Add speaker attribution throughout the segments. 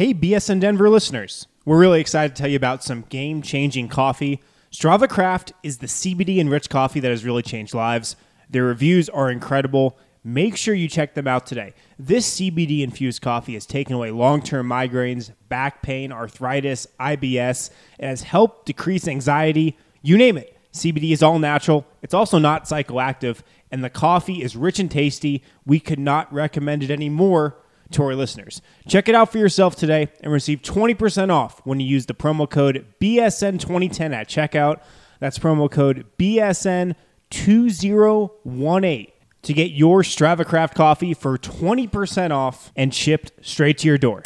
Speaker 1: Hey, BSN Denver listeners. We're really excited to tell you about some game-changing coffee. Strava Craft is the CBD-enriched coffee that has really changed lives. Their reviews are incredible. Make sure you check them out today. This CBD-infused coffee has taken away long-term migraines, back pain, arthritis, IBS, and has helped decrease anxiety. You name it. CBD is all natural. It's also not psychoactive, and the coffee is rich and tasty. We could not recommend it anymore to our listeners. Check it out for yourself today and receive 20% off when you use the promo code BSN2010 at checkout. That's promo code BSN2018 to get your Strava Craft coffee for 20% off and shipped straight to your door.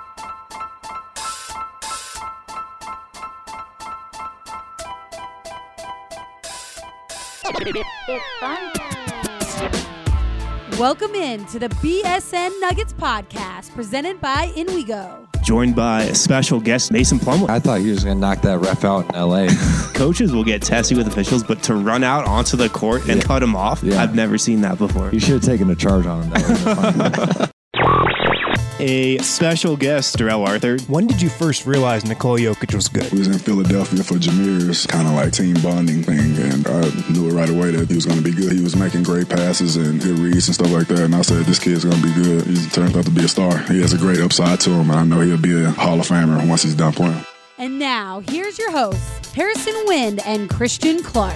Speaker 2: It's fun time. Welcome in to the BSN Nuggets podcast presented by InWeGo.
Speaker 1: Joined by a special guest, Mason Plumlee.
Speaker 3: I thought you were just going to knock that ref out in L.A.
Speaker 1: Coaches will get testy with officials, but to run out onto the court and cut him off, I've never seen that before.
Speaker 3: You should have taken a charge on him. That would have been fun.
Speaker 1: A special guest, Darrell Arthur. When did you first realize Nikola Jokic was good?
Speaker 4: We was in Philadelphia for Jameer's kind of like team bonding thing, and I knew it right away that he was going to be good. He was making great passes and good reads and stuff like that, and I said, this kid's going to be good. He turned out to be a star. He has a great upside to him, and I know he'll be a Hall of Famer once he's done playing.
Speaker 2: And now, here's your hosts, Harrison Wind and Christian Clark.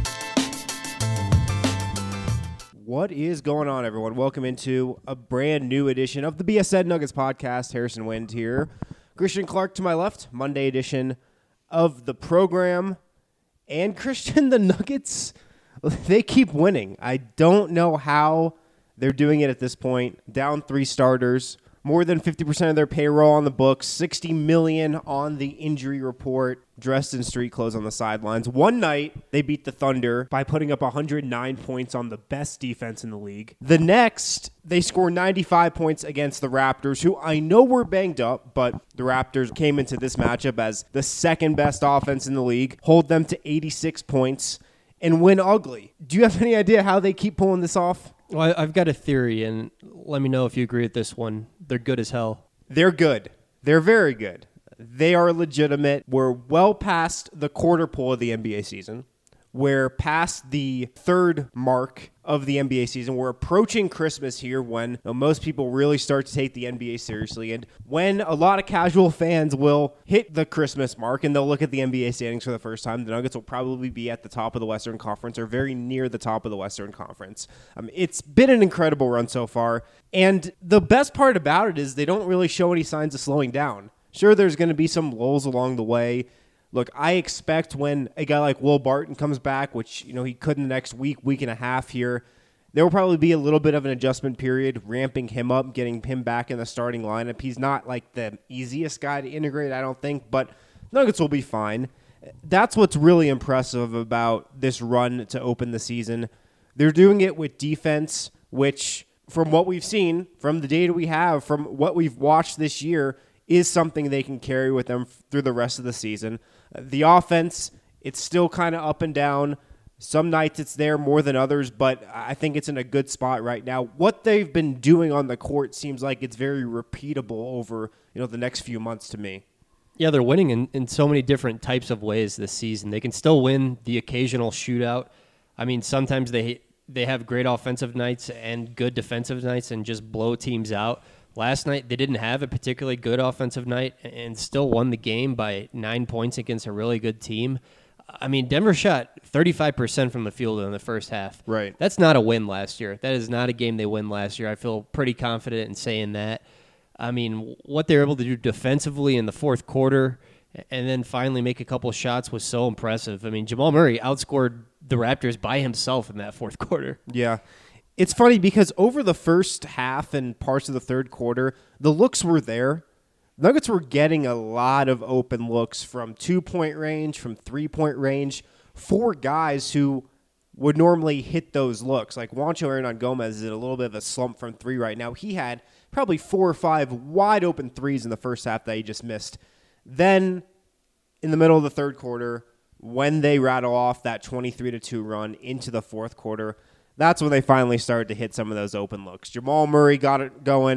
Speaker 1: What is going on, everyone? Welcome into a brand new edition of the BSN Nuggets podcast. Harrison Wind here. Christian Clark to my left, Monday edition of the program. And Christian, the Nuggets, they keep winning. I don't know how they're doing it at this point. Down 3 starters, more than 50% of their payroll on the books, $60 million on the injury report, dressed in street clothes on the sidelines. One night, they beat the Thunder by putting up 109 points on the best defense in the league. The next, they score 95 points against the Raptors, who I know were banged up, but the Raptors came into this matchup as the second best offense in the league, hold them to 86 points, and win ugly. Do you have any idea how they keep pulling this off?
Speaker 5: Well, I've got a theory, and let me know if you agree with this one. They're good as hell.
Speaker 1: They're good. They're very good. They are legitimate. We're well past the quarter pole of the NBA season. We're past the third mark of the NBA season. We're approaching Christmas here when most people really start to take the NBA seriously, and when a lot of casual fans will hit the Christmas mark and they'll look at the NBA standings for the first time. The Nuggets will probably be at the top of the Western Conference or very near the top of the Western Conference. It's been an incredible run so far, and the best part about it is they don't really show any signs of slowing down. Sure, there's going to be some lulls along the way. Look, I expect when a guy like Will Barton comes back, which he could in the next week and a half here, there will probably be a little bit of an adjustment period, ramping him up, getting him back in the starting lineup. He's not like the easiest guy to integrate, I don't think, but Nuggets will be fine. That's what's really impressive about this run to open the season. They're doing it with defense, which from what we've seen, from the data we have, from what we've watched this year, is something they can carry with them through the rest of the season. The offense, it's still kind of up and down. Some nights it's there more than others, but I think it's in a good spot right now. What they've been doing on the court seems like it's very repeatable over the next few months to me.
Speaker 5: Yeah, they're winning in so many different types of ways this season. They can still win the occasional shootout. I mean, sometimes they have great offensive nights and good defensive nights and just blow teams out. Last night, they didn't have a particularly good offensive night and still won the game by 9 points against a really good team. I mean, Denver shot 35% from the field in the first half.
Speaker 1: Right.
Speaker 5: That's not a win last year. That is not a game they win last year. I feel pretty confident in saying that. I mean, what they were able to do defensively in the fourth quarter and then finally make a couple shots was so impressive. I mean, Jamal Murray outscored the Raptors by himself in that fourth quarter.
Speaker 1: Yeah. It's funny because over the first half and parts of the third quarter, the looks were there. Nuggets were getting a lot of open looks from 2-point range, from 3-point range, for guys who would normally hit those looks. Like Juancho Hernan-Gomez is in a little bit of a slump from 3 right now. He had probably 4 or 5 wide open threes in the first half that he just missed. Then in the middle of the third quarter, when they rattle off that 23-2 run into the fourth quarter, that's when they finally started to hit some of those open looks. Jamal Murray got it going.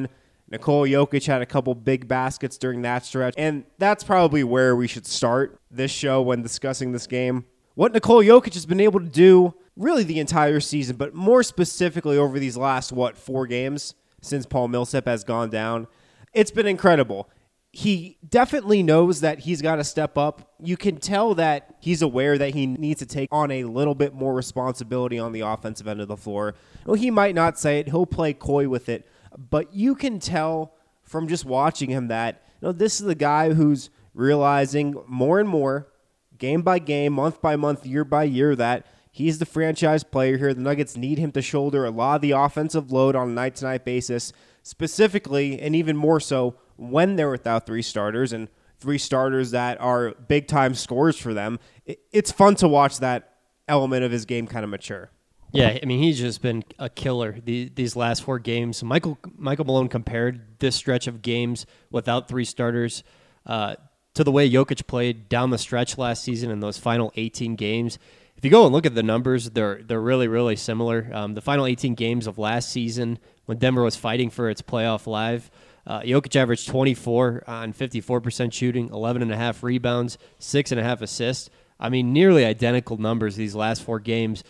Speaker 1: Nikola Jokic had a couple big baskets during that stretch, and that's probably where we should start this show when discussing this game. What Nikola Jokic has been able to do really the entire season, but more specifically over these last, 4 games since Paul Millsap has gone down, it's been incredible. He definitely knows that he's got to step up. You can tell that he's aware that he needs to take on a little bit more responsibility on the offensive end of the floor. Well, he might not say it. He'll play coy with it. But you can tell from just watching him that this is the guy who's realizing more and more, game by game, month by month, year by year, that he's the franchise player here. The Nuggets need him to shoulder a lot of the offensive load on a night-to-night basis, specifically and even more so when they're without 3 starters and 3 starters that are big-time scorers for them. It's fun to watch that element of his game kind of mature.
Speaker 5: Yeah, I mean, he's just been a killer these last 4 games. Michael Malone compared this stretch of games without 3 starters to the way Jokic played down the stretch last season in those final 18 games. If you go and look at the numbers, they're really, really similar. The final 18 games of last season, when Denver was fighting for its playoff live, Jokic averaged 24 on 54% shooting, 11.5 rebounds, 6.5 assists. I mean, nearly identical numbers these last 4 games.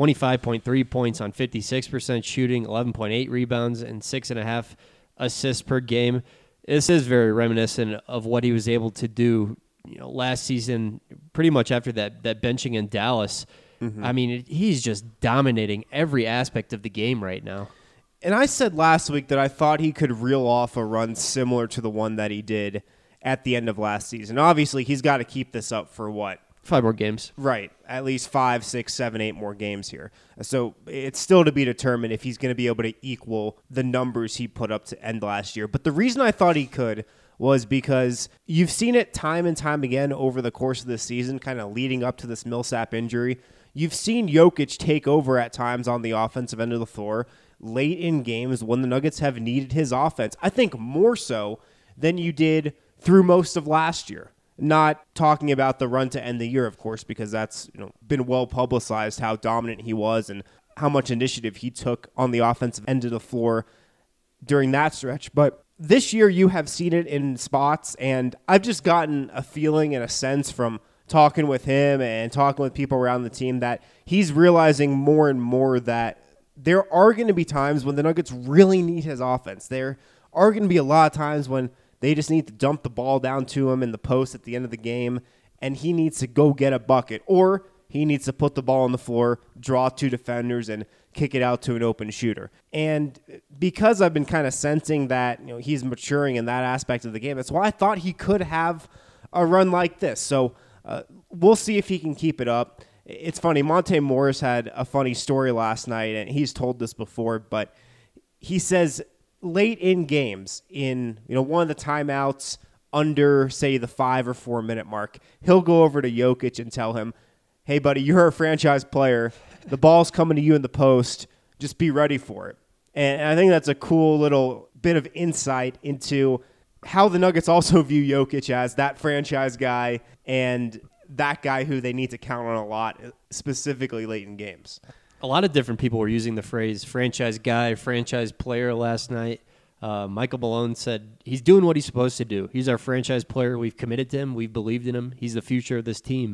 Speaker 5: 25.3 points on 56% shooting, 11.8 rebounds, and 6.5 assists per game. This is very reminiscent of what he was able to do, last season, pretty much after that benching in Dallas. Mm-hmm. I mean, he's just dominating every aspect of the game right now.
Speaker 1: And I said last week that I thought he could reel off a run similar to the one that he did at the end of last season. Obviously, he's got to keep this up for
Speaker 5: 5 more games.
Speaker 1: Right. At least 5, 6, 7, 8 more games here. So it's still to be determined if he's going to be able to equal the numbers he put up to end last year. But the reason I thought he could was because you've seen it time and time again over the course of this season, kind of leading up to this Millsap injury. You've seen Jokic take over at times on the offensive end of the floor late in games when the Nuggets have needed his offense. I think more so than you did through most of last year. Not talking about the run to end the year, of course, because that's been well publicized how dominant he was and how much initiative he took on the offensive end of the floor during that stretch. But this year you have seen it in spots, and I've just gotten a feeling and a sense from talking with him and talking with people around the team that he's realizing more and more that there are going to be times when the Nuggets really need his offense. There are going to be a lot of times when they just need to dump the ball down to him in the post at the end of the game, and he needs to go get a bucket, or he needs to put the ball on the floor, draw 2 defenders, and kick it out to an open shooter. And because I've been kind of sensing that he's maturing in that aspect of the game, that's why I thought he could have a run like this. So we'll see if he can keep it up. It's funny, Monte Morris had a funny story last night, and he's told this before, but he says late in games, in one of the timeouts under, say, the 5 or 4 minute mark, he'll go over to Jokic and tell him, "Hey, buddy, you're a franchise player. The ball's coming to you in the post. Just be ready for it." And I think that's a cool little bit of insight into how the Nuggets also view Jokic as that franchise guy and that guy who they need to count on a lot, specifically late in games.
Speaker 5: A lot of different people were using the phrase franchise guy, franchise player last night. Michael Malone said he's doing what he's supposed to do. He's our franchise player. We've committed to him. We've believed in him. He's the future of this team.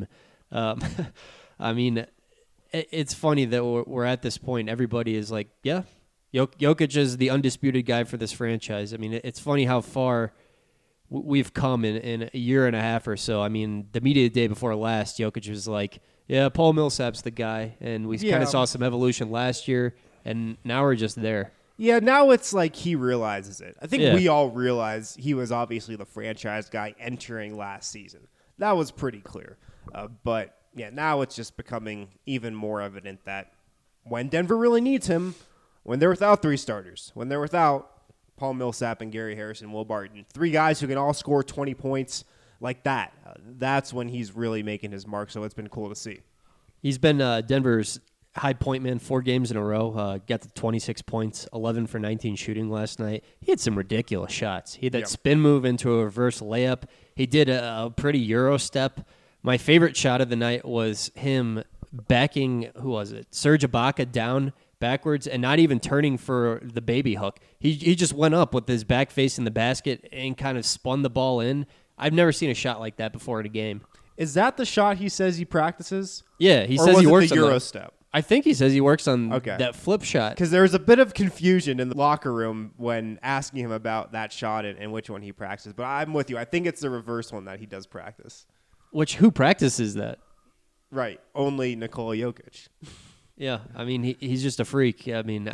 Speaker 5: I mean, it's funny that we're at this point. Everybody is like, yeah, Jokic is the undisputed guy for this franchise. I mean, it's funny how far we've come in a year and a half or so. I mean, the media day before last, Jokic was like, yeah, Paul Millsap's the guy. And we kind of saw some evolution last year, and now we're just there.
Speaker 1: Yeah, now it's like he realizes it. I think we all realize he was obviously the franchise guy entering last season. That was pretty clear. But, yeah, now it's just becoming even more evident that when Denver really needs him, when they're without 3 starters, when they're without Paul Millsap and Gary Harrison, Will Barton, 3 guys who can all score 20 points like that, that's when he's really making his mark, so it's been cool to see.
Speaker 5: He's been Denver's high point man 4 games in a row. Got to 26 points, 11 for 19 shooting last night. He had some ridiculous shots. He had that spin move into a reverse layup. He did a pretty Euro step. My favorite shot of the night was him backing, who was it? Serge Ibaka down, backwards and not even turning for the baby hook. He just went up with his back facing the basket and kind of spun the ball in. I've never seen a shot like that before in a game.
Speaker 1: Is that the shot he says he practices?
Speaker 5: Yeah, he
Speaker 1: Or
Speaker 5: says
Speaker 1: was
Speaker 5: he
Speaker 1: it
Speaker 5: works
Speaker 1: the
Speaker 5: on
Speaker 1: Euro
Speaker 5: that.
Speaker 1: step?
Speaker 5: I think he says he works on
Speaker 1: Okay.
Speaker 5: that flip shot.
Speaker 1: Because there was a bit of confusion in the locker room when asking him about that shot and which one he practices. But I'm with you. I think it's the reverse one that he does practice.
Speaker 5: Who practices that?
Speaker 1: Right. Only Nikola Jokic.
Speaker 5: Yeah, I mean, he's just a freak. I mean,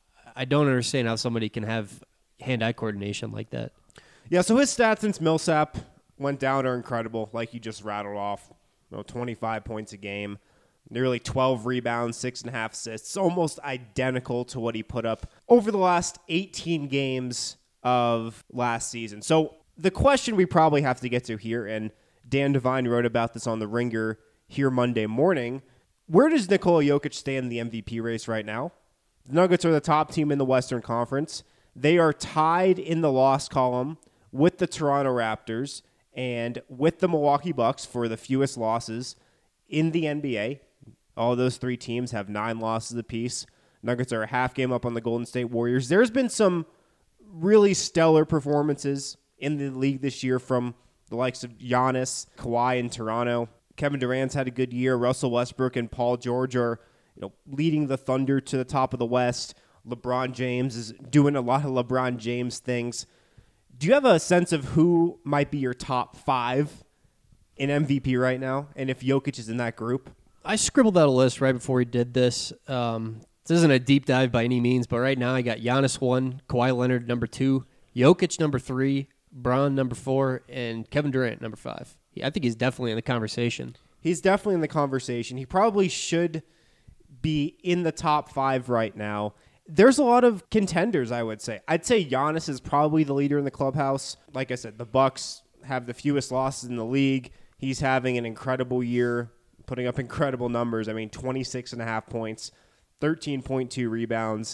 Speaker 5: I don't understand how somebody can have hand-eye coordination like that.
Speaker 1: Yeah, so his stats since Millsap went down are incredible, like you just rattled off. 25 points a game, nearly 12 rebounds, 6.5 assists, almost identical to what he put up over the last 18 games of last season. So the question we probably have to get to here, and Dan Devine wrote about this on The Ringer here Monday morning, where does Nikola Jokic stand in the MVP race right now? The Nuggets are the top team in the Western Conference. They are tied in the loss column with the Toronto Raptors and with the Milwaukee Bucks for the fewest losses in the NBA. All those three teams have 9 losses apiece. Nuggets are a half game up on the Golden State Warriors. There's been some really stellar performances in the league this year from the likes of Giannis, Kawhi in Toronto. Kevin Durant's had a good year. Russell Westbrook and Paul George are leading the Thunder to the top of the West. LeBron James is doing a lot of LeBron James things. Do you have a sense of who might be your top 5 in MVP right now, and if Jokic is in that group?
Speaker 5: I scribbled out a list right before we did this. This isn't a deep dive by any means, but right now I got Giannis 1, Kawhi Leonard number 2, Jokic number 3, Bron number 4, and Kevin Durant number 5. I think he's definitely in the conversation.
Speaker 1: He's definitely in the conversation. He probably should be in the top 5 right now. There's a lot of contenders, I would say. I'd say Giannis is probably the leader in the clubhouse. Like I said, the Bucks have the fewest losses in the league. He's having an incredible year, putting up incredible numbers. I mean, 26.5 points, 13.2 rebounds,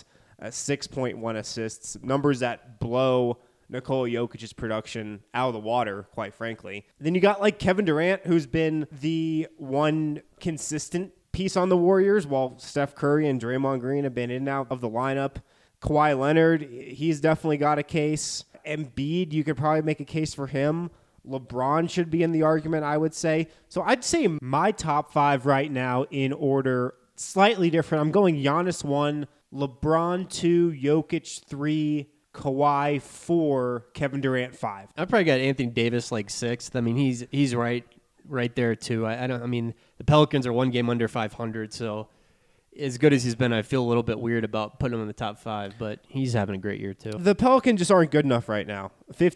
Speaker 1: 6.1 assists, numbers that blow Nikola Jokic's production out of the water, quite frankly. Then you got like Kevin Durant, who's been the one consistent piece on the Warriors, while Steph Curry and Draymond Green have been in and out of the lineup. Kawhi Leonard, he's definitely got a case. Embiid, you could probably make a case for him. LeBron should be in the argument, I would say. So I'd say my top 5 right now in order, slightly different. I'm going Giannis 1, LeBron 2, Jokic 3, Kawhi 4, Kevin Durant 5.
Speaker 5: I probably got Anthony Davis like 6th. I mean, he's right there too. I mean, the Pelicans are 1 game under 500, so as good as he's been, I feel a little bit weird about putting him in the top 5, but he's having a great year too.
Speaker 1: The Pelicans just aren't good enough right now.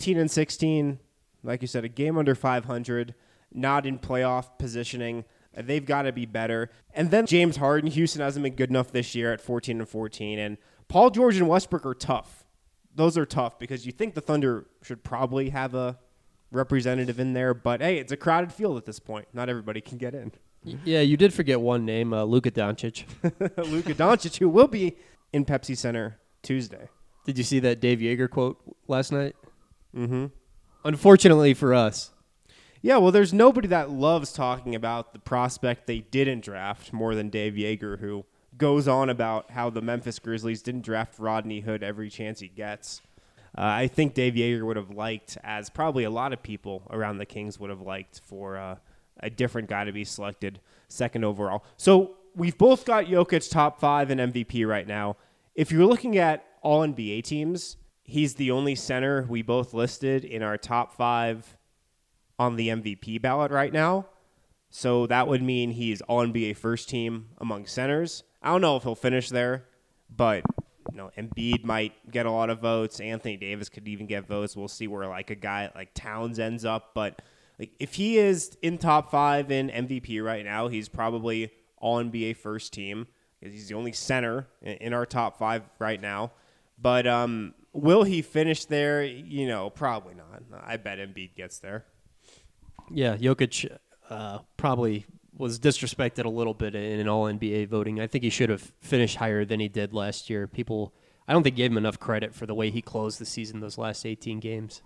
Speaker 1: 15-16, like you said, a game under 500, not in playoff positioning. They've got to be better. And then James Harden, Houston hasn't been good enough this year at 14-14, and Paul George and Westbrook are tough. Those are tough because you think the Thunder should probably have a representative in there, but hey, it's a crowded field at this point. Not everybody can get in.
Speaker 5: Yeah, you did forget one name, Luka Doncic.
Speaker 1: Luka Doncic, who will be in Pepsi Center Tuesday.
Speaker 5: Did you see that Dave Yeager quote last night?
Speaker 1: Mm-hmm.
Speaker 5: Unfortunately for us.
Speaker 1: Yeah, well, there's nobody that loves talking about the prospect they didn't draft more than Dave Yeager, who goes on about how the Memphis Grizzlies didn't draft Rodney Hood every chance he gets. I think Dave Yeager would have liked, as probably a lot of people around the Kings would have liked, for a different guy to be selected 2nd overall. So we've both got Jokic top 5 in MVP right now. If you're looking at all NBA teams, he's the only center we both listed in our top 5 on the MVP ballot right now. So that would mean he's all NBA first team among centers. I don't know if he'll finish there, but Embiid might get a lot of votes. Anthony Davis could even get votes. We'll see where like a guy like Towns ends up. But like if he is in top 5 in MVP right now, he's probably all NBA first team because he's the only center in our top 5 right now. But will he finish there? Probably not. I bet Embiid gets there.
Speaker 5: Yeah, Jokic probably was disrespected a little bit in all-NBA voting. I think he should have finished higher than he did last year. People, I don't think gave him enough credit for the way he closed the season those last 18 games.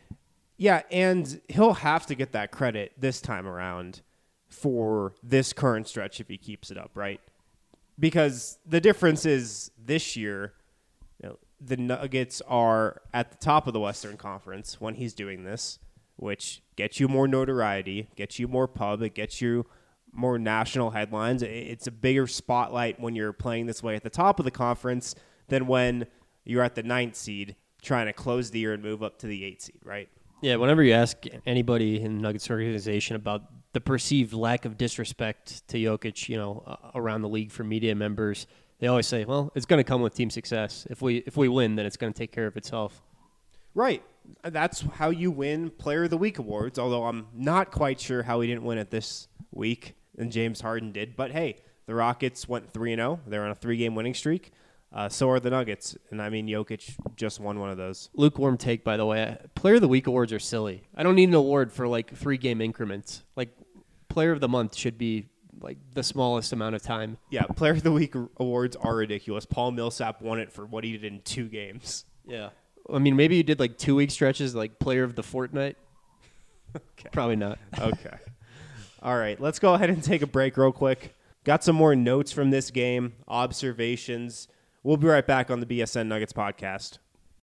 Speaker 1: Yeah, and he'll have to get that credit this time around for this current stretch if he keeps it up, right? Because the difference is this year, the Nuggets are at the top of the Western Conference when he's doing this, which gets you more notoriety, gets you more pub, it gets you more national headlines. It's a bigger spotlight when you're playing this way at the top of the conference than when you're at the 9th seed trying to close the year and move up to the 8th seed, right?
Speaker 5: Yeah, whenever you ask anybody in the Nuggets organization about the perceived lack of disrespect to Jokic, around the league for media members, they always say, well, it's going to come with team success. If we win, then it's going to take care of itself.
Speaker 1: Right. That's how you win Player of the Week awards, although I'm not quite sure how he didn't win it this week, and James Harden did. But, hey, the Rockets went 3-0. They're on a 3-game winning streak. So are the Nuggets. And, Jokic just won one of those.
Speaker 5: Lukewarm take, by the way. Player of the Week awards are silly. I don't need an award for, 3-game increments. Player of the Month should be, the smallest amount of time.
Speaker 1: Yeah, Player of the Week awards are ridiculous. Paul Millsap won it for what he did in 2 games.
Speaker 5: Yeah. Maybe you did, 2-week stretches, Player of the Fortnight.
Speaker 1: Okay.
Speaker 5: Probably not.
Speaker 1: Okay. All right, let's go ahead and take a break real quick. Got some more notes from this game, observations. We'll be right back on the BSN Nuggets podcast.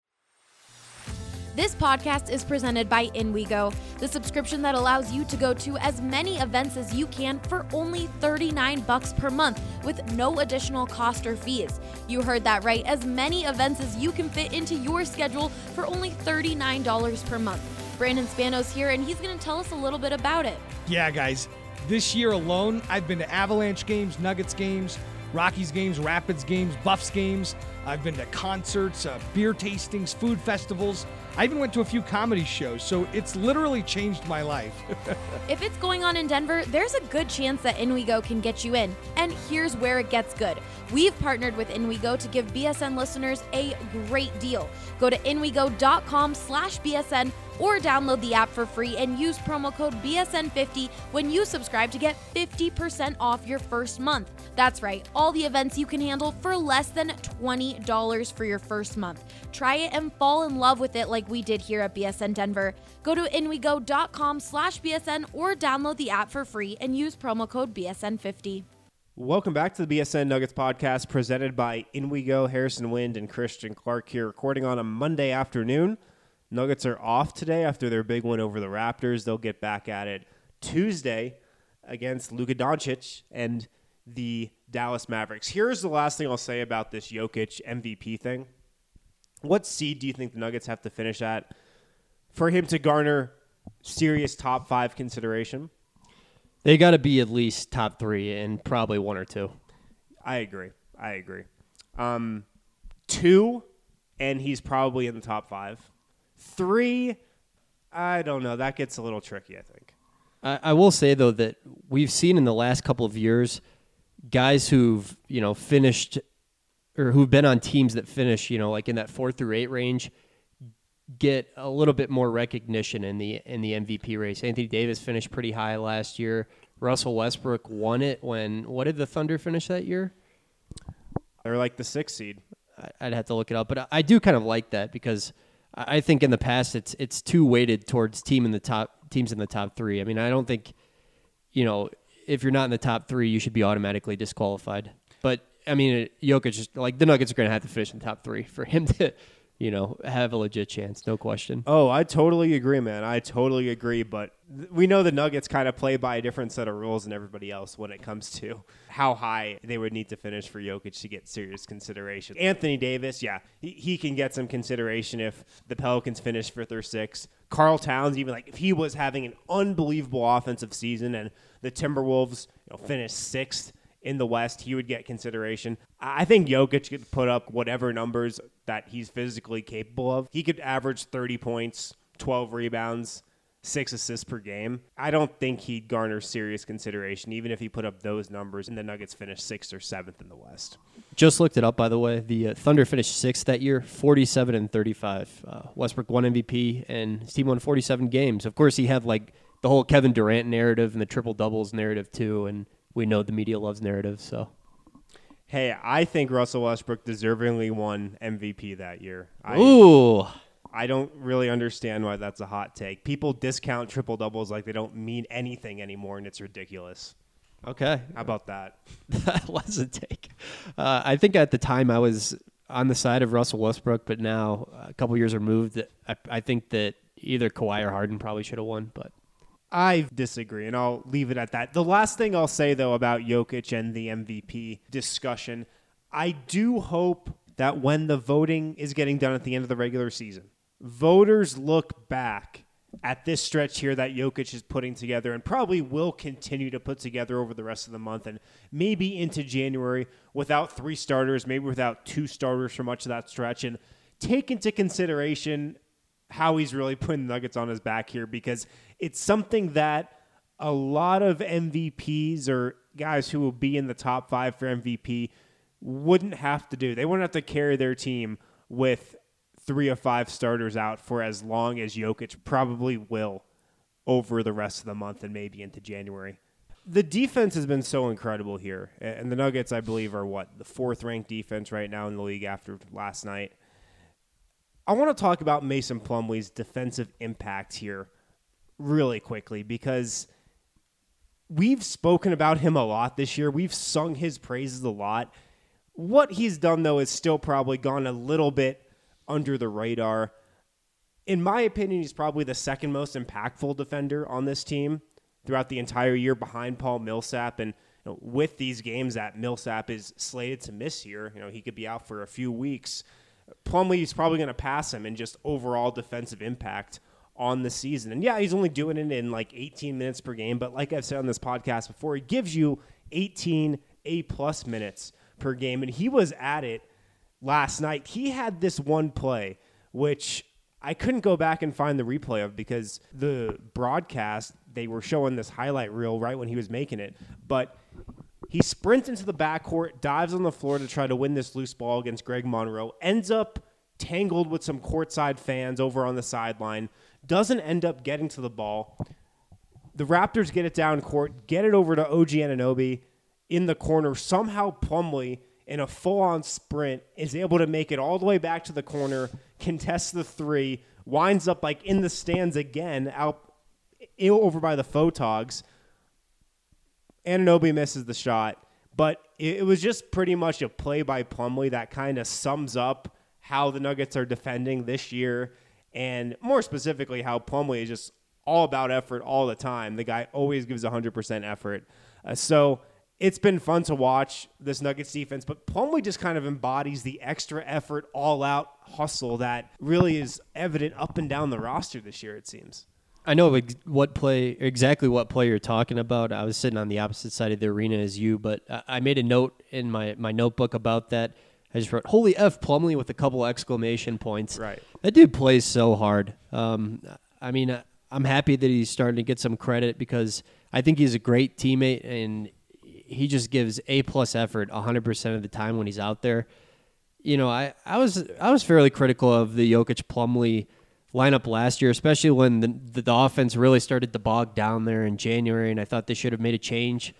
Speaker 6: This podcast is presented by InWeGo, the subscription that allows you to go to as many events as you can for only $39 per month with no additional cost or fees. You heard that right, as many events as you can fit into your schedule for only $39 per month. Brandon Spanos here, and he's going to tell us a little bit about it.
Speaker 7: Yeah, guys. This year alone, I've been to Avalanche games, Nuggets games, Rockies games, Rapids games, Buffs games. I've been to concerts, beer tastings, food festivals. I even went to a few comedy shows, so it's literally changed my life.
Speaker 6: If it's going on in Denver, there's a good chance that InWeGo can get you in. And here's where it gets good. We've partnered with InWeGo to give BSN listeners a great deal. Go to inwego.com/BSN or download the app for free and use promo code BSN50 when you subscribe to get 50% off your first month. That's right, all the events you can handle for less than $20 for your first month. Try it and fall in love with it like we did here at BSN Denver. Go to inwego.com/BSN or download the app for free and use promo code BSN50.
Speaker 1: Welcome back to the BSN Nuggets podcast presented by InWeGo. Harrison Wind and Christian Clark here, recording on a Monday afternoon. Nuggets are off today after their big win over the Raptors. They'll get back at it Tuesday against Luka Doncic and the Dallas Mavericks. Here's the last thing I'll say about this Jokic MVP thing. What seed do you think the Nuggets have to finish at for him to garner serious top 5 consideration?
Speaker 5: They got to be at least top 3 and probably 1 or 2.
Speaker 1: I agree. 2, and he's probably in the top 5. 3, I don't know. That gets a little tricky, I think.
Speaker 5: I will say, though, that we've seen in the last couple of years guys who've, finished or who've been on teams that finish, in that 4 through 8 range get a little bit more recognition in the MVP race. Anthony Davis finished pretty high last year. Russell Westbrook won it what did the Thunder finish that year?
Speaker 1: They're like the 6th seed.
Speaker 5: I'd have to look it up, but I do kind of like that because I think in the past it's too weighted towards teams in the top 3. I mean, I don't think, if you're not in the top 3, you should be automatically disqualified. But I mean, Jokic, just the Nuggets are going to have to finish in the top 3 for him to, have a legit chance, no question.
Speaker 1: Oh, I totally agree, man. I totally agree. But we know the Nuggets kind of play by a different set of rules than everybody else when it comes to how high they would need to finish for Jokic to get serious consideration. Anthony Davis, yeah, he can get some consideration if the Pelicans finish 5th or 6th. Karl Towns, even if he was having an unbelievable offensive season and the Timberwolves finished 6th in the West, he would get consideration. I think Jokic could put up whatever numbers that he's physically capable of. He could average 30 points, 12 rebounds, 6 assists per game. I don't think he'd garner serious consideration, even if he put up those numbers and the Nuggets finished 6th or 7th in the West.
Speaker 5: Just looked it up, by the way. The Thunder finished 6th that year, 47-35. Westbrook won MVP, and his team won 47 games. Of course, he had the whole Kevin Durant narrative and the triple-doubles narrative, too, and we know the media loves narratives, so.
Speaker 1: Hey, I think Russell Westbrook deservingly won MVP that year.
Speaker 5: Ooh.
Speaker 1: I don't really understand why that's a hot take. People discount triple-doubles like they don't mean anything anymore, and it's ridiculous.
Speaker 5: Okay.
Speaker 1: How about that?
Speaker 5: That was a take. I think at the time I was on the side of Russell Westbrook, but now a couple years removed, I think that either Kawhi or Harden probably should have won. But
Speaker 1: I disagree, and I'll leave it at that. The last thing I'll say, though, about Jokic and the MVP discussion, I do hope that when the voting is getting done at the end of the regular season, voters look back at this stretch here that Jokic is putting together and probably will continue to put together over the rest of the month and maybe into January without 3 starters, maybe without 2 starters for much of that stretch, and take into consideration how he's really putting the Nuggets on his back here, because it's something that a lot of MVPs or guys who will be in the top 5 for MVP wouldn't have to do. They wouldn't have to carry their team with 3 of 5 starters out for as long as Jokic probably will over the rest of the month and maybe into January. The defense has been so incredible here, and the Nuggets, I believe, are the 4th-ranked defense right now in the league after last night. I want to talk about Mason Plumlee's defensive impact here really quickly, because we've spoken about him a lot this year. We've sung his praises a lot. What he's done, though, is still probably gone a little bit under the radar. In my opinion, he's probably the 2nd most impactful defender on this team throughout the entire year, behind Paul Millsap. And with these games that Millsap is slated to miss here, he could be out for a few weeks. Plumlee is probably going to pass him in just overall defensive impact on the season. And yeah, he's only doing it in like 18 minutes per game, but like I've said on this podcast before, he gives you 18 A+ minutes per game, and he was at it last night. He had this one play, which I couldn't go back and find the replay of because the broadcast, they were showing this highlight reel right when he was making it. But he sprints into the backcourt, dives on the floor to try to win this loose ball against Greg Monroe, ends up tangled with some courtside fans over on the sideline, doesn't end up getting to the ball. The Raptors get it down court, get it over to OG Anunoby in the corner. Somehow Plumlee, in a full-on sprint, is able to make it all the way back to the corner, contests the 3, winds up like in the stands again, out over by the Photogs. Anunoby misses the shot, but it was just pretty much a play by Plumlee that kind of sums up how the Nuggets are defending this year, and more specifically how Plumlee is just all about effort all the time. The guy always gives 100% effort. So it's been fun to watch this Nuggets defense, but Plumlee just kind of embodies the extra effort, all-out hustle that really is evident up and down the roster this year, it seems.
Speaker 5: I know exactly what play you're talking about. I was sitting on the opposite side of the arena as you, but I made a note in my notebook about that. I just wrote, "Holy F, Plumlee," with a couple exclamation points.
Speaker 1: Right.
Speaker 5: That dude plays so hard. I mean, I'm happy that he's starting to get some credit because I think he's a great teammate, and he just gives A+ effort 100% of the time when he's out there. I was fairly critical of the Jokic Plumlee lineup last year, especially when the offense really started to bog down there in January, and I thought they should have made a change.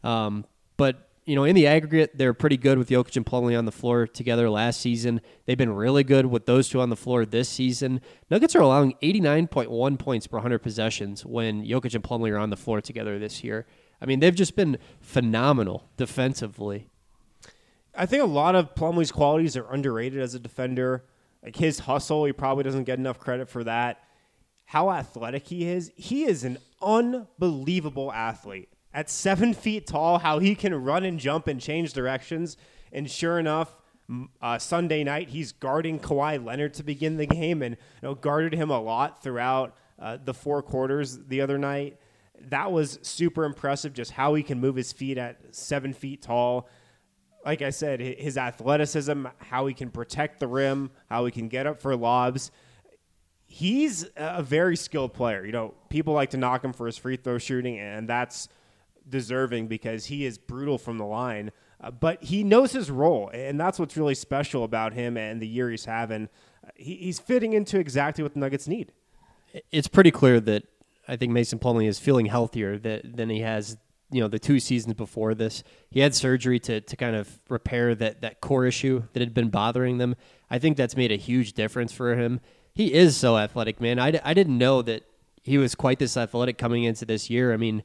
Speaker 5: But in the aggregate, they're pretty good with Jokic and Plumlee on the floor together last season. They've been really good with those two on the floor this season. Nuggets are allowing 89.1 points per 100 possessions when Jokic and Plumlee are on the floor together this year. I mean, they've just been phenomenal defensively.
Speaker 1: I think a lot of Plumlee's qualities are underrated as a defender. Like his hustle, he probably doesn't get enough credit for that. How athletic he is an unbelievable athlete. At 7 feet tall, how he can run and jump and change directions. And sure enough, Sunday night, he's guarding Kawhi Leonard to begin the game and guarded him a lot throughout the 4 quarters the other night. That was super impressive, just how he can move his feet at 7 feet tall. Like I said, his athleticism, how he can protect the rim, how he can get up for lobs. He's a very skilled player. People like to knock him for his free throw shooting, and that's deserving because he is brutal from the line. But he knows his role, and that's what's really special about him and the year he's having. He's fitting into exactly what the Nuggets need.
Speaker 5: It's pretty clear that I think Mason Plumlee is feeling healthier than he has the 2 seasons before this. He had surgery to kind of repair that core issue that had been bothering them. I think that's made a huge difference for him. He is so athletic, man. I didn't know that he was quite this athletic coming into this year. I mean,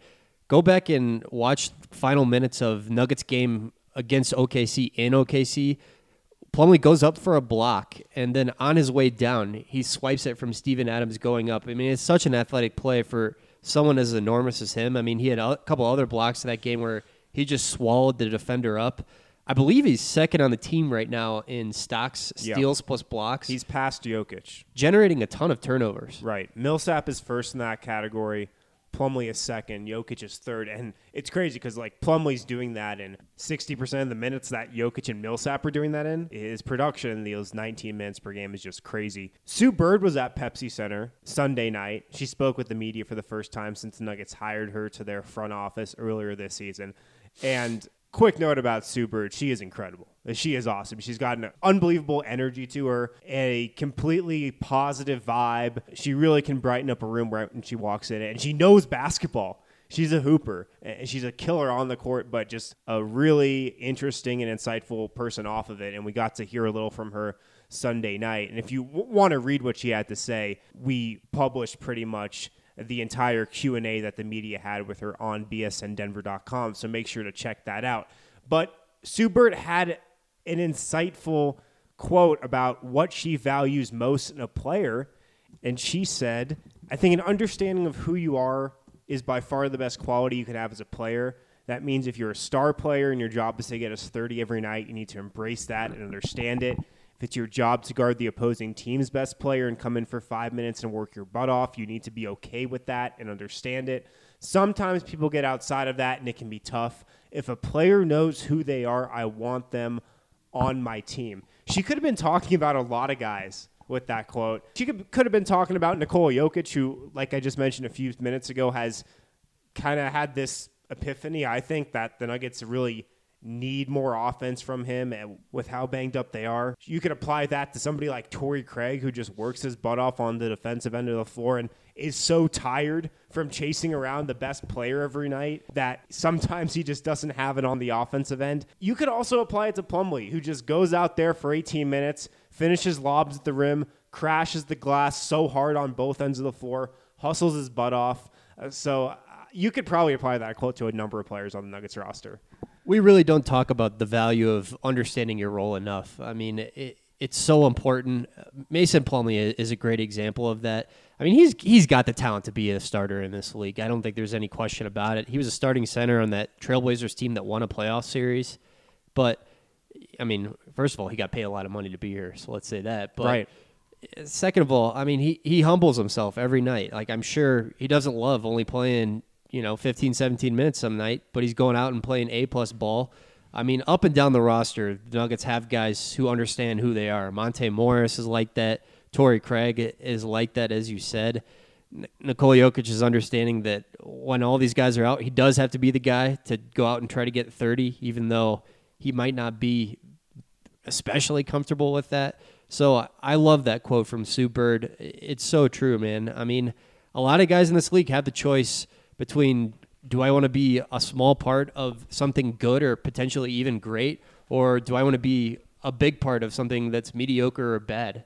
Speaker 5: Go back and watch final minutes of Nuggets game against OKC in OKC. Plumlee goes up for a block, and then on his way down, he swipes it from Steven Adams going up. I mean, it's such an athletic play for someone as enormous as him. I mean, he had a couple other blocks in that game where he just swallowed the defender up. I believe he's second on the team right now in stocks, steals plus blocks.
Speaker 1: He's past Jokic.
Speaker 5: Generating a ton of turnovers.
Speaker 1: Right. Millsap is first in that category. Plumlee is second. Jokic is third. And it's crazy because, like, Plumlee's doing that in 60% of the minutes that Jokic and Millsap are doing that in. His production in those 19 minutes per game is just crazy. Sue Bird was at Pepsi Center Sunday night. She spoke with the media for the first time since the Nuggets hired her to their front office earlier this season. And quick note about Sue Bird, she is incredible. She is awesome. She's got an unbelievable energy to her, a completely positive vibe. She really can brighten up a room right when she walks in, and she knows basketball. She's a hooper, and she's a killer on the court, but just a really interesting and insightful person off of it, and we got to hear a little from her Sunday night. And if you want to read what she had to say, we published pretty much the entire Q&A that the media had with her on bsndenver.com, so make sure to check that out. But Sue Bird had an insightful quote about what she values most in a player, and she said, I think an understanding of who you are is by far the best quality you can have as a player. That means if you're a star player and your job is to get us 30 every night, you need to embrace that and understand it. If it's your job to guard the opposing team's best player and come in for 5 minutes and work your butt off, you need to be okay with that and understand it. Sometimes people get outside of that and it can be tough. If a player knows who they are, I want them on my team. She could have been talking about a lot of guys with that quote. She could have been talking about Nikola Jokic, who, like I just mentioned a few minutes ago, has kind of had this epiphany, I think, that the Nuggets really need more offense from him, and with how banged up they are. You could apply that to somebody like Torrey Craig, who just works his butt off on the defensive end of the floor and is so tired from chasing around the best player every night that sometimes he just doesn't have it on the offensive end. You could also apply it to Plumlee, who just goes out there for 18 minutes, finishes lobs at the rim, crashes the glass so hard on both ends of the floor, hustles his butt off. So you could probably apply that quote to a number of players on the Nuggets roster.
Speaker 5: We really don't talk about the value of understanding your role enough. I mean, it's so important. Mason Plumlee is a great example of that. I mean, he's got the talent to be a starter in this league. I don't think there's any question about it. He was a starting center on that Trailblazers team that won a playoff series. But, I mean, first of all, he got paid a lot of money to be here, so let's say that. But
Speaker 1: right.
Speaker 5: Second of all, I mean, he humbles himself every night. Like, I'm sure he doesn't love only playing 15, 17 minutes some night, but he's going out and playing A-plus ball. I mean, up and down the roster, the Nuggets have guys who understand who they are. Monte Morris is like that. Torrey Craig is like that, as you said. Nikola Jokic is understanding that when all these guys are out, he does have to be the guy to go out and try to get 30, even though he might not be especially comfortable with that. So I love that quote from Sue Bird. It's so true, man. I mean, a lot of guys in this league have the choice between, do I want to be a small part of something good or potentially even great, or do I want to be a big part of something that's mediocre or bad?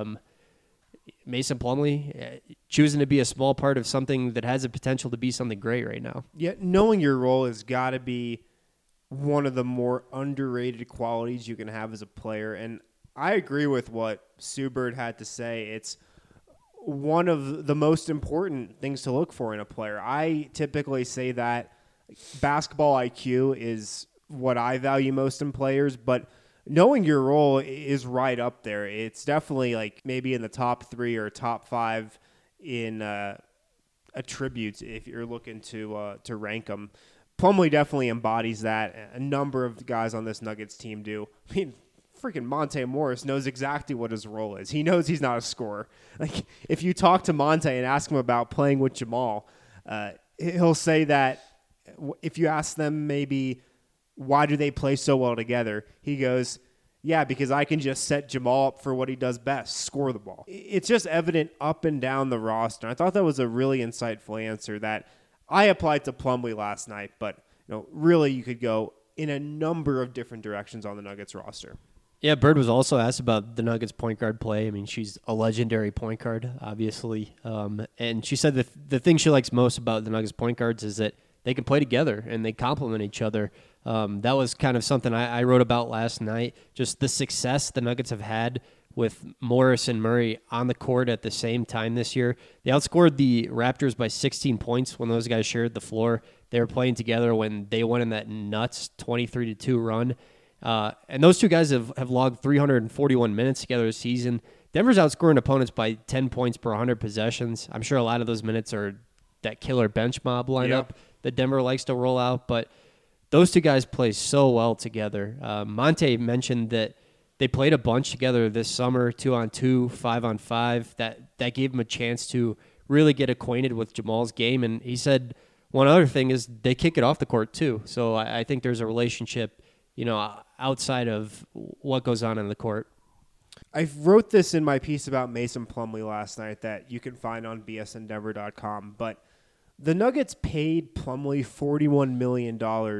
Speaker 5: Mason Plumlee choosing to be a small part of something that has the potential to be something great right now.
Speaker 1: Yeah, knowing your role has got to be one of the more underrated qualities you can have as a player. And I agree with what Sue Bird had to say. It's one of the most important things to look for in a player. I typically say that basketball IQ is what I value most in players, but knowing your role is right up there. It's definitely like maybe in the top 3 or top 5 in attributes if you're looking to rank them. Plumlee definitely embodies that. A number of guys on this Nuggets team do. I mean, freaking Monte Morris knows exactly what his role is. He knows he's not a scorer. Like, if you talk to Monte and ask him about playing with Jamal, he'll say that if you ask them maybe why do they play so well together, he goes, yeah, because I can just set Jamal up for what he does best, score the ball. It's just evident up and down the roster. I thought that was a really insightful answer that I applied to Plumlee last night, but really you could go in a number of different directions on the Nuggets roster.
Speaker 5: Yeah, Bird was also asked about the Nuggets point guard play. I mean, she's a legendary point guard, obviously. And she said the thing she likes most about the Nuggets point guards is that they can play together and they complement each other. That was kind of something I wrote about last night, just the success the Nuggets have had with Morris and Murray on the court at the same time this year. They outscored the Raptors by 16 points when those guys shared the floor. They were playing together when they went in that nuts 23-2 run. And those two guys have logged 341 minutes together this season. Denver's outscoring opponents by 10 points per 100 possessions. I'm sure a lot of those minutes are that killer bench mob lineup that Denver likes to roll out, but those two guys play so well together. Monte mentioned that they played a bunch together this summer, 2-on-2, 5-on-5. That gave him a chance to really get acquainted with Jamal's game. And he said one other thing is they kick it off the court too. So I think there's a relationship, outside of what goes on in the court.
Speaker 1: I wrote this in my piece about Mason Plumlee last night that you can find on bsndenver.com, but the Nuggets paid Plumlee $41 million.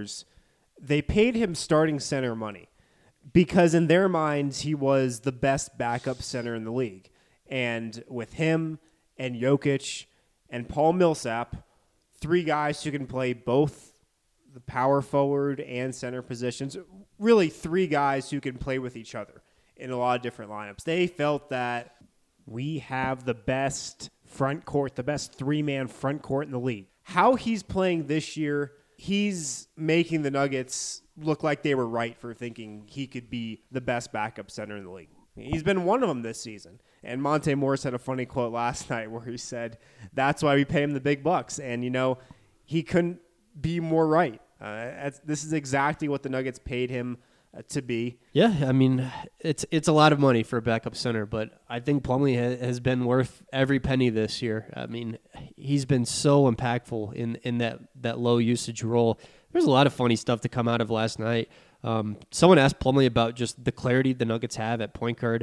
Speaker 1: They paid him starting center money because in their minds he was the best backup center in the league. And with him and Jokic and Paul Millsap, three guys who can play both the power forward and center positions, really three guys who can play with each other in a lot of different lineups. They felt that we have the best front court, the best three-man front court in the league. How he's playing this year, he's making the Nuggets look like they were right for thinking he could be the best backup center in the league. He's been one of them this season. And Monte Morris had a funny quote last night where he said, that's why we pay him the big bucks. And, he couldn't be more right. This is exactly what the Nuggets paid him to be.
Speaker 5: Yeah, I mean, it's a lot of money for a backup center, but I think Plumlee has been worth every penny this year. I mean, he's been so impactful in that low usage role. There's a lot of funny stuff to come out of last night. Someone asked Plumlee about just the clarity the Nuggets have at point guard.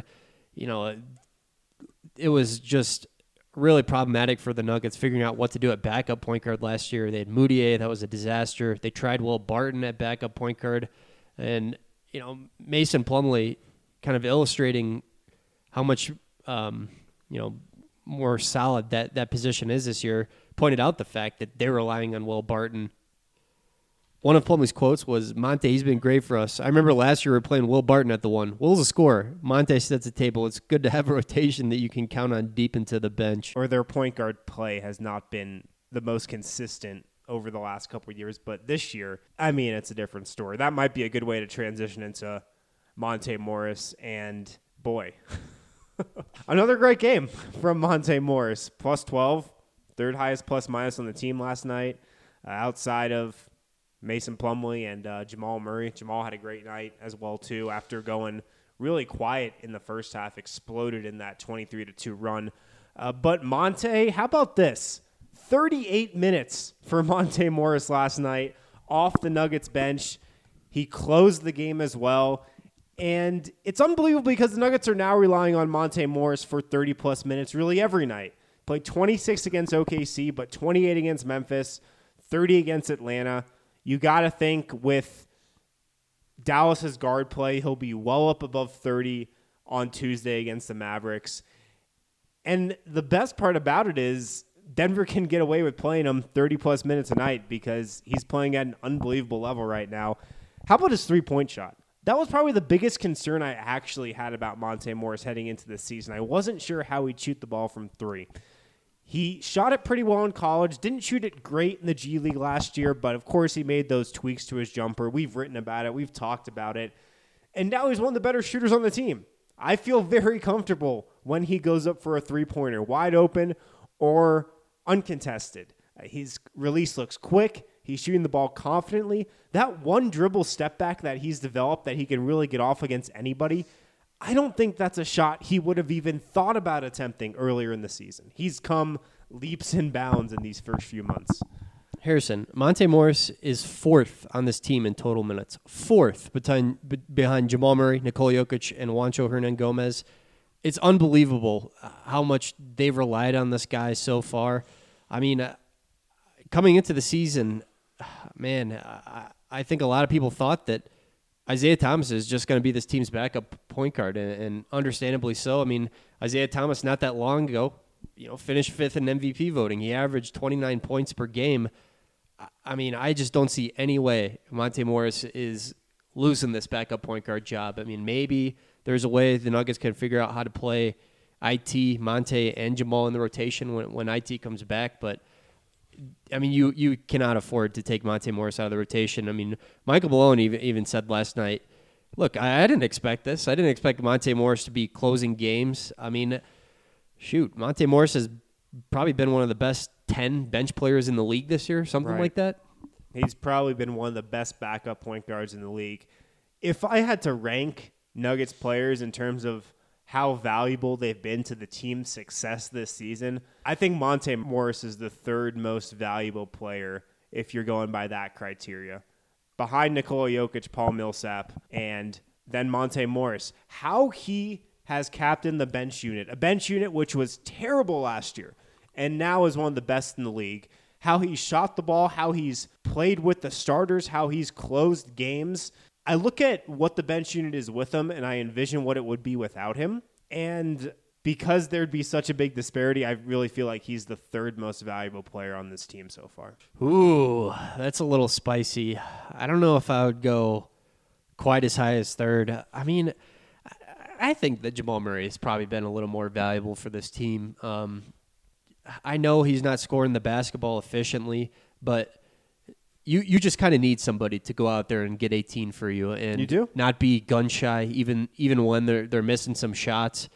Speaker 5: It was just really problematic for the Nuggets figuring out what to do at backup point guard last year. They had Moutier, that was a disaster. They tried Will Barton at backup point guard, and Mason Plumlee kind of illustrating how much more solid that position is this year, pointed out the fact that they're relying on Will Barton. One of Plumlee's quotes was, Monte, he's been great for us. I remember last year we were playing Will Barton at the one. Will's a scorer. Monte sets the table. It's good to have a rotation that you can count on deep into the bench.
Speaker 1: Or their point guard play has not been the most consistent over the last couple of years, but this year, I mean, it's a different story. That might be a good way to transition into Monte Morris, and boy, another great game from Monte Morris. Plus 12, third highest plus minus on the team last night, outside of Mason Plumlee and Jamal Murray. Jamal had a great night as well, too, after going really quiet in the first half, exploded in that 23-2 run. But Monte, how about this? 38 minutes for Monte Morris last night off the Nuggets bench. He closed the game as well. And it's unbelievable because the Nuggets are now relying on Monte Morris for 30-plus minutes really every night. Played 26 against OKC, but 28 against Memphis, 30 against Atlanta. You got to think with Dallas's guard play, he'll be well up above 30 on Tuesday against the Mavericks. And the best part about it is Denver can get away with playing him 30-plus minutes a night because he's playing at an unbelievable level right now. How about his three-point shot? That was probably the biggest concern I actually had about Monte Morris heading into this season. I wasn't sure how he'd shoot the ball from three. He shot it pretty well in college, didn't shoot it great in the G League last year, but of course he made those tweaks to his jumper. We've written about it. We've talked about it. And now he's one of the better shooters on the team. I feel very comfortable when he goes up for a three-pointer, wide open or uncontested. His release looks quick. He's shooting the ball confidently. That one dribble step back that he's developed that he can really get off against anybody, I don't think that's a shot he would have even thought about attempting earlier in the season. He's come leaps and bounds in these first few months.
Speaker 5: Harrison, Monte Morris is fourth on this team in total minutes. Fourth behind Jamal Murray, Nikola Jokic, and Juancho Hernan-Gomez. It's unbelievable how much they've relied on this guy so far. I mean, coming into the season, man, I think a lot of people thought that Isaiah Thomas is just going to be this team's backup point guard, and understandably so. I mean, Isaiah Thomas not that long ago, finished fifth in MVP voting. He averaged 29 points per game. I mean, I just don't see any way Monte Morris is losing this backup point guard job. I mean, maybe there's a way the Nuggets can figure out how to play IT, Monte, and Jamal in the rotation when IT comes back. But, I mean, you cannot afford to take Monte Morris out of the rotation. I mean, Michael Malone even said last night, look, I didn't expect this. I didn't expect Monte Morris to be closing games. I mean, shoot, Monte Morris has probably been one of the best 10 bench players in the league this year, something like that.
Speaker 1: He's probably been one of the best backup point guards in the league. If I had to rank Nuggets players in terms of how valuable they've been to the team's success this season, I think Monte Morris is the third most valuable player if you're going by that criteria. Behind Nikola Jokic, Paul Millsap, and then Monte Morris. How he has captained the bench unit, a bench unit which was terrible last year and now is one of the best in the league. How he shot the ball, how he's played with the starters, how he's closed games. I look at what the bench unit is with him, and I envision what it would be without him. And because there'd be such a big disparity, I really feel like he's the third most valuable player on this team so far.
Speaker 5: Ooh, that's a little spicy. I don't know if I would go quite as high as third. I mean, I think that Jamal Murray has probably been a little more valuable for this team. I know he's not scoring the basketball efficiently, but you just kind of need somebody to go out there and get 18 for you, and
Speaker 1: you do?
Speaker 5: Not be gun shy even when they're missing some shots.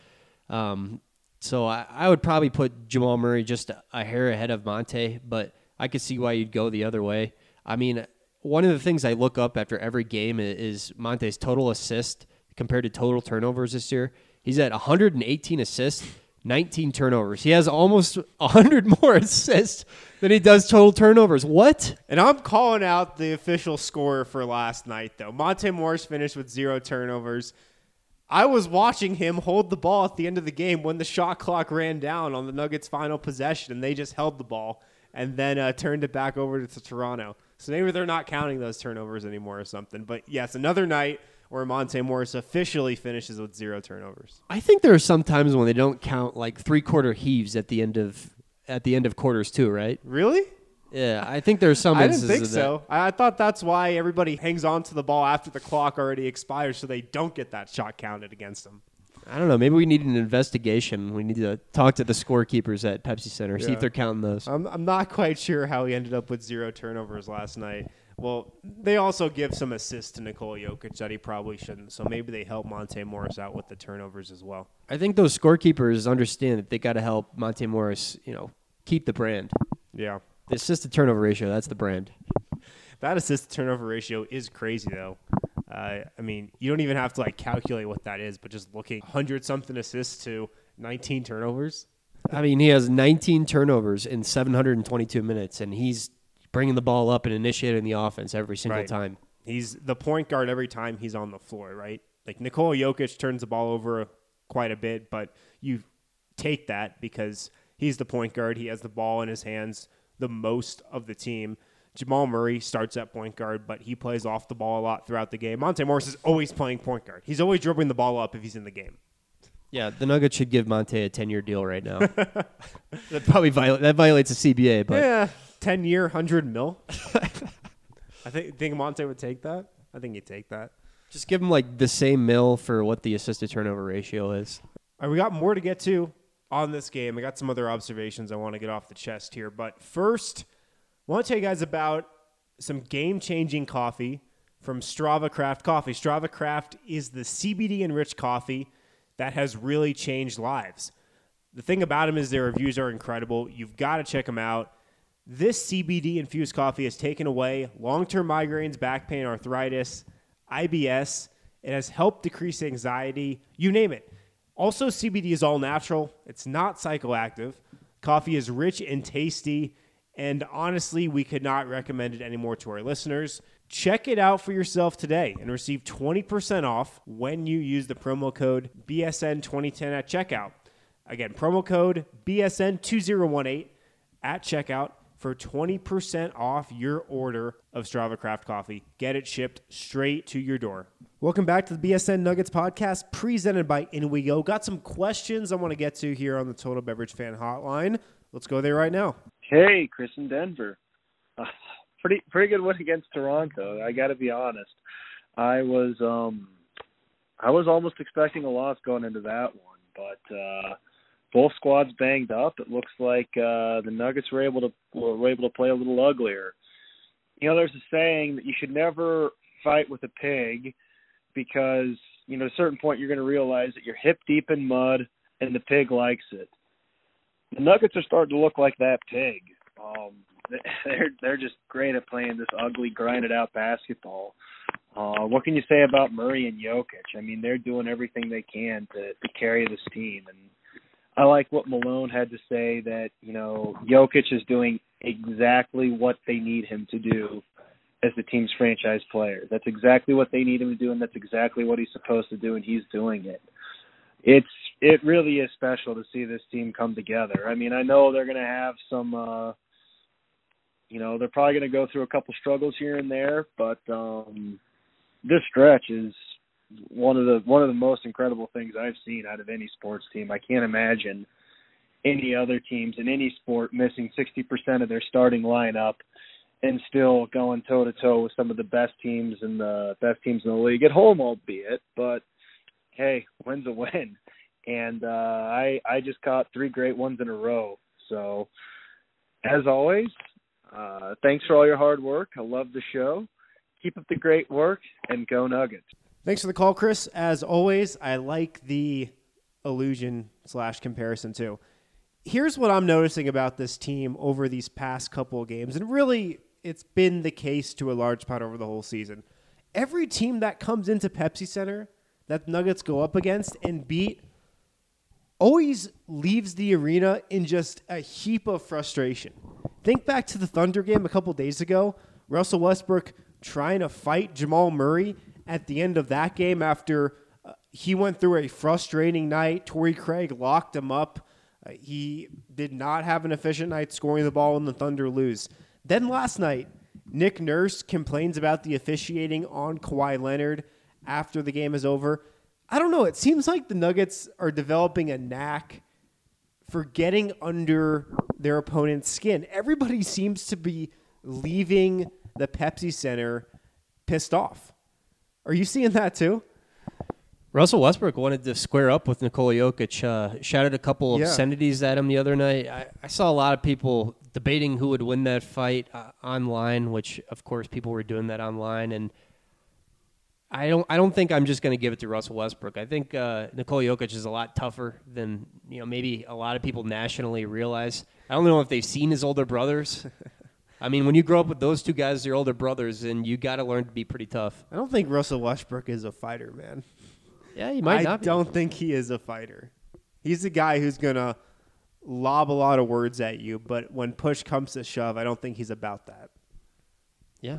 Speaker 5: So I would probably put Jamal Murray just a hair ahead of Monte, but I could see why you'd go the other way. I mean, one of the things I look up after every game is Monte's total assist compared to total turnovers this year. He's at 118 assists. 19 turnovers. He has almost 100 more assists than he does total turnovers. What?
Speaker 1: And I'm calling out the official scorer for last night, though. Monte Morris finished with 0 turnovers. I was watching him hold the ball at the end of the game when the shot clock ran down on the Nuggets' final possession, and they just held the ball and then turned it back over to Toronto. So maybe they're not counting those turnovers anymore or something. But, yes, another night where Monte Morris officially finishes with 0 turnovers.
Speaker 5: I think there are some times when they don't count like 3-quarter heaves at the end of quarters too, right?
Speaker 1: Really?
Speaker 5: Yeah, I think there's some
Speaker 1: I didn't
Speaker 5: instances
Speaker 1: think
Speaker 5: of that.
Speaker 1: so. I thought that's why everybody hangs on to the ball after the clock already expires so they don't get that shot counted against them.
Speaker 5: I don't know. Maybe we need an investigation. We need to talk to the scorekeepers at Pepsi Center, see if they're counting those.
Speaker 1: I'm not quite sure how he ended up with 0 turnovers last night. Well, they also give some assists to Nikola Jokic that he probably shouldn't, so maybe they help Monte Morris out with the turnovers as well.
Speaker 5: I think those scorekeepers understand that they got to help Monte Morris, keep the brand.
Speaker 1: Yeah.
Speaker 5: The assist-to-turnover ratio, that's the brand.
Speaker 1: That assist-to-turnover ratio is crazy, though. I mean, you don't even have to calculate what that is, but just looking 100-something assists to 19 turnovers.
Speaker 5: I mean, he has 19 turnovers in 722 minutes, and he's bringing the ball up and initiating the offense every single time.
Speaker 1: He's the point guard every time he's on the floor, right? Nikola Jokic turns the ball over quite a bit, but you take that because he's the point guard. He has the ball in his hands the most of the team. Jamal Murray starts at point guard, but he plays off the ball a lot throughout the game. Monte Morris is always playing point guard. He's always dribbling the ball up if he's in the game.
Speaker 5: Yeah, the Nuggets should give Monte a 10-year deal right now. That probably violates the CBA, but
Speaker 1: yeah, 10-year, $100 million. I think Monte would take that. I think he'd take that.
Speaker 5: Just give him the same mil for what the assist-to-turnover ratio is.
Speaker 1: All right, we got more to get to on this game. I got some other observations I want to get off the chest here, but first, I want to tell you guys about some game-changing coffee from Strava Craft Coffee. Strava Craft is the CBD-enriched coffee that has really changed lives. The thing about them is their reviews are incredible. You've got to check them out. This CBD-infused coffee has taken away long-term migraines, back pain, arthritis, IBS. It has helped decrease anxiety, you name it. Also, CBD is all natural. It's not psychoactive. Coffee is rich and tasty. And honestly, we could not recommend it anymore to our listeners. Check it out for yourself today and receive 20% off when you use the promo code BSN2010 at checkout. Again, promo code BSN2018 at checkout for 20% off your order of Strava Craft Coffee. Get it shipped straight to your door. Welcome back to the BSN Nuggets podcast presented by In We Go. Got some questions I want to get to here on the Total Beverage Fan Hotline. Let's go there right now.
Speaker 8: Hey, Chris in Denver. pretty good win against Toronto. I got to be honest. I was almost expecting a loss going into that one, but both squads banged up. It looks like the Nuggets were able to play a little uglier. You know, there's a saying that you should never fight with a pig because, you know, at a certain point you're going to realize that you're hip deep in mud and the pig likes it. The Nuggets are starting to look like that pig. They're just great at playing this ugly, grinded out basketball. What can you say about Murray and Jokic? I mean, they're doing everything they can to carry this team. And I like what Malone had to say that, you know, Jokic is doing exactly what they need him to do as the team's franchise player. That's exactly what they need him to do, and that's exactly what he's supposed to do, and he's doing it. It really is special to see this team come together. I mean, I know they're going to have some, they're probably going to go through a couple struggles here and there, but this stretch is one of the most incredible things I've seen out of any sports team. I can't imagine any other teams in any sport missing 60% of their starting lineup and still going toe-to-toe with some of the best teams in the league at home, albeit. But, hey, win's a win. And I just caught 3 great ones in a row. So, as always, thanks for all your hard work. I love the show. Keep up the great work, and go Nuggets.
Speaker 1: Thanks for the call, Chris. As always, I like the allusion/comparison, too. Here's what I'm noticing about this team over these past couple of games, and really it's been the case to a large part over the whole season. Every team that comes into Pepsi Center that the Nuggets go up against and beat always leaves the arena in just a heap of frustration. Think back to the Thunder game a couple days ago. Russell Westbrook trying to fight Jamal Murray at the end of that game after he went through a frustrating night. Torrey Craig locked him up. He did not have an efficient night scoring the ball and the Thunder lose. Then last night, Nick Nurse complains about the officiating on Kawhi Leonard after the game is over. I don't know. It seems like the Nuggets are developing a knack for getting under their opponent's skin. Everybody seems to be leaving the Pepsi Center pissed off. Are you seeing that too?
Speaker 5: Russell Westbrook wanted to square up with Nikola Jokic, shouted a couple obscenities at him the other night. I saw a lot of people debating who would win that fight online, which, of course, people were doing that online. And I don't think I'm just going to give it to Russell Westbrook. I think Nikola Jokic is a lot tougher than maybe a lot of people nationally realize. I don't know if they've seen his older brothers. I mean, when you grow up with those two guys, your older brothers, and you got to learn to be pretty tough.
Speaker 1: I don't think Russell Westbrook is a fighter, man.
Speaker 5: Yeah, he might not be.
Speaker 1: I don't think he is a fighter. He's a guy who's going to lob a lot of words at you, but when push comes to shove, I don't think he's about that.
Speaker 5: Yeah.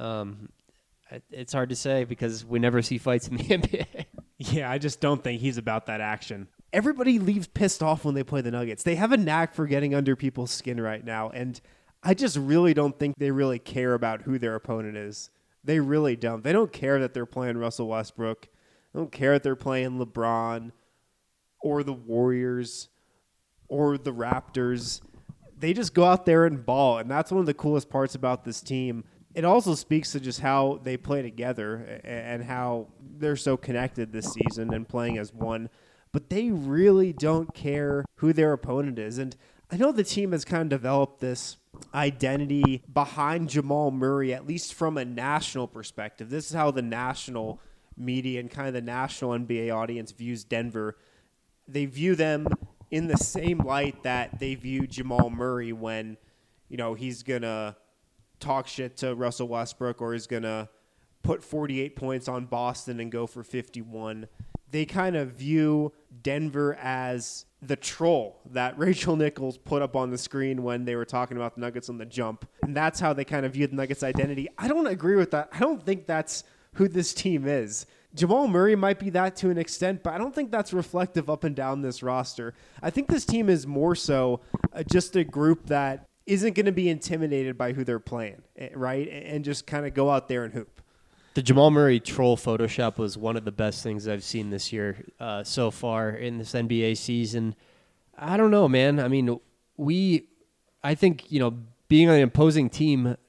Speaker 5: It's hard to say because we never see fights in the NBA.
Speaker 1: Yeah, I just don't think he's about that action. Everybody leaves pissed off when they play the Nuggets. They have a knack for getting under people's skin right now, and I just really don't think they really care about who their opponent is. They really don't. They don't care that they're playing Russell Westbrook. They don't care that they're playing LeBron or the Warriors or the Raptors. They just go out there and ball, and that's one of the coolest parts about this team. It also speaks to just how they play together and how they're so connected this season and playing as one. But they really don't care who their opponent is. And I know the team has kind of developed this identity behind Jamal Murray, at least from a national perspective. This is how the national media and kind of the national NBA audience views Denver. They view them in the same light that they view Jamal Murray when, he's going to talk shit to Russell Westbrook or is going to put 48 points on Boston and go for 51. They kind of view Denver as the troll that Rachel Nichols put up on the screen when they were talking about the Nuggets on the jump. And that's how they kind of view the Nuggets' identity. I don't agree with that. I don't think that's who this team is. Jamal Murray might be that to an extent, but I don't think that's reflective up and down this roster. I think this team is more so just a group that isn't going to be intimidated by who they're playing, right? And just kind of go out there and hoop.
Speaker 5: The Jamal Murray troll Photoshop was one of the best things I've seen this year so far in this NBA season. I don't know, man. I mean, I think, being an opposing team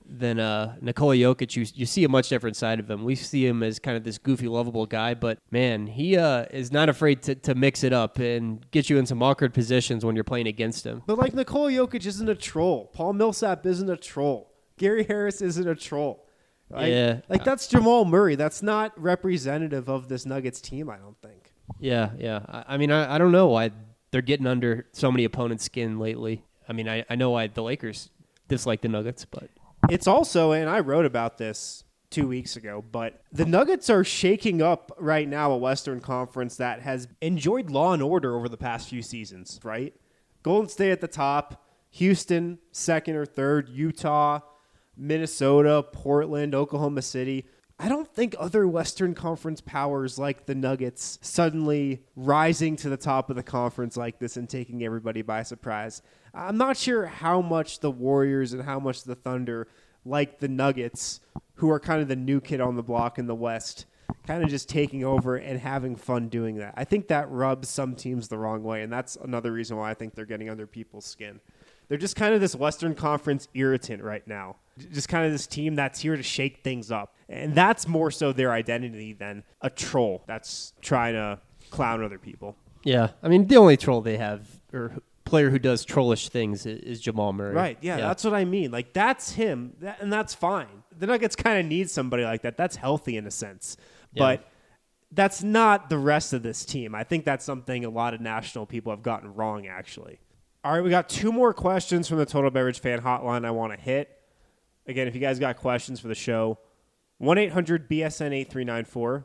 Speaker 5: Nikola Jokic, you see a much different side of him. We see him as kind of this goofy, lovable guy, but man, he is not afraid to mix it up and get you in some awkward positions when you're playing against him.
Speaker 1: But like Nikola Jokic isn't a troll. Paul Millsap isn't a troll. Gary Harris isn't a troll.
Speaker 5: Yeah.
Speaker 1: Like that's Jamal Murray. That's not representative of this Nuggets team, I don't think.
Speaker 5: Yeah. I mean, I don't know why they're getting under so many opponents' skin lately. I mean, I know why the Lakers dislike the Nuggets, but
Speaker 1: it's also, and I wrote about this 2 weeks ago, but the Nuggets are shaking up right now a Western Conference that has enjoyed law and order over the past few seasons, right? Golden State at the top, Houston second or third, Utah, Minnesota, Portland, Oklahoma City. I don't think other Western Conference powers like the Nuggets suddenly rising to the top of the conference like this and taking everybody by surprise. I'm not sure how much the Warriors and how much the Thunder like the Nuggets, who are kind of the new kid on the block in the West, kind of just taking over and having fun doing that. I think that rubs some teams the wrong way, and that's another reason why I think they're getting under people's skin. They're just kind of this Western Conference irritant right now. Just kind of this team that's here to shake things up. And that's more so their identity than a troll that's trying to clown other people.
Speaker 5: Yeah. I mean, the only troll they have, or player who does trollish things, is Jamal Murray.
Speaker 1: Right. Yeah, that's what I mean. Like, that's him, and that's fine. The Nuggets kind of need somebody like that. That's healthy in a sense.
Speaker 5: Yeah.
Speaker 1: But that's not the rest of this team. I think that's something a lot of national people have gotten wrong, actually. All right, we got 2 more questions from the Total Beverage Fan Hotline I want to hit. Again, if you guys got questions for the show, 1-800-BSN-8394,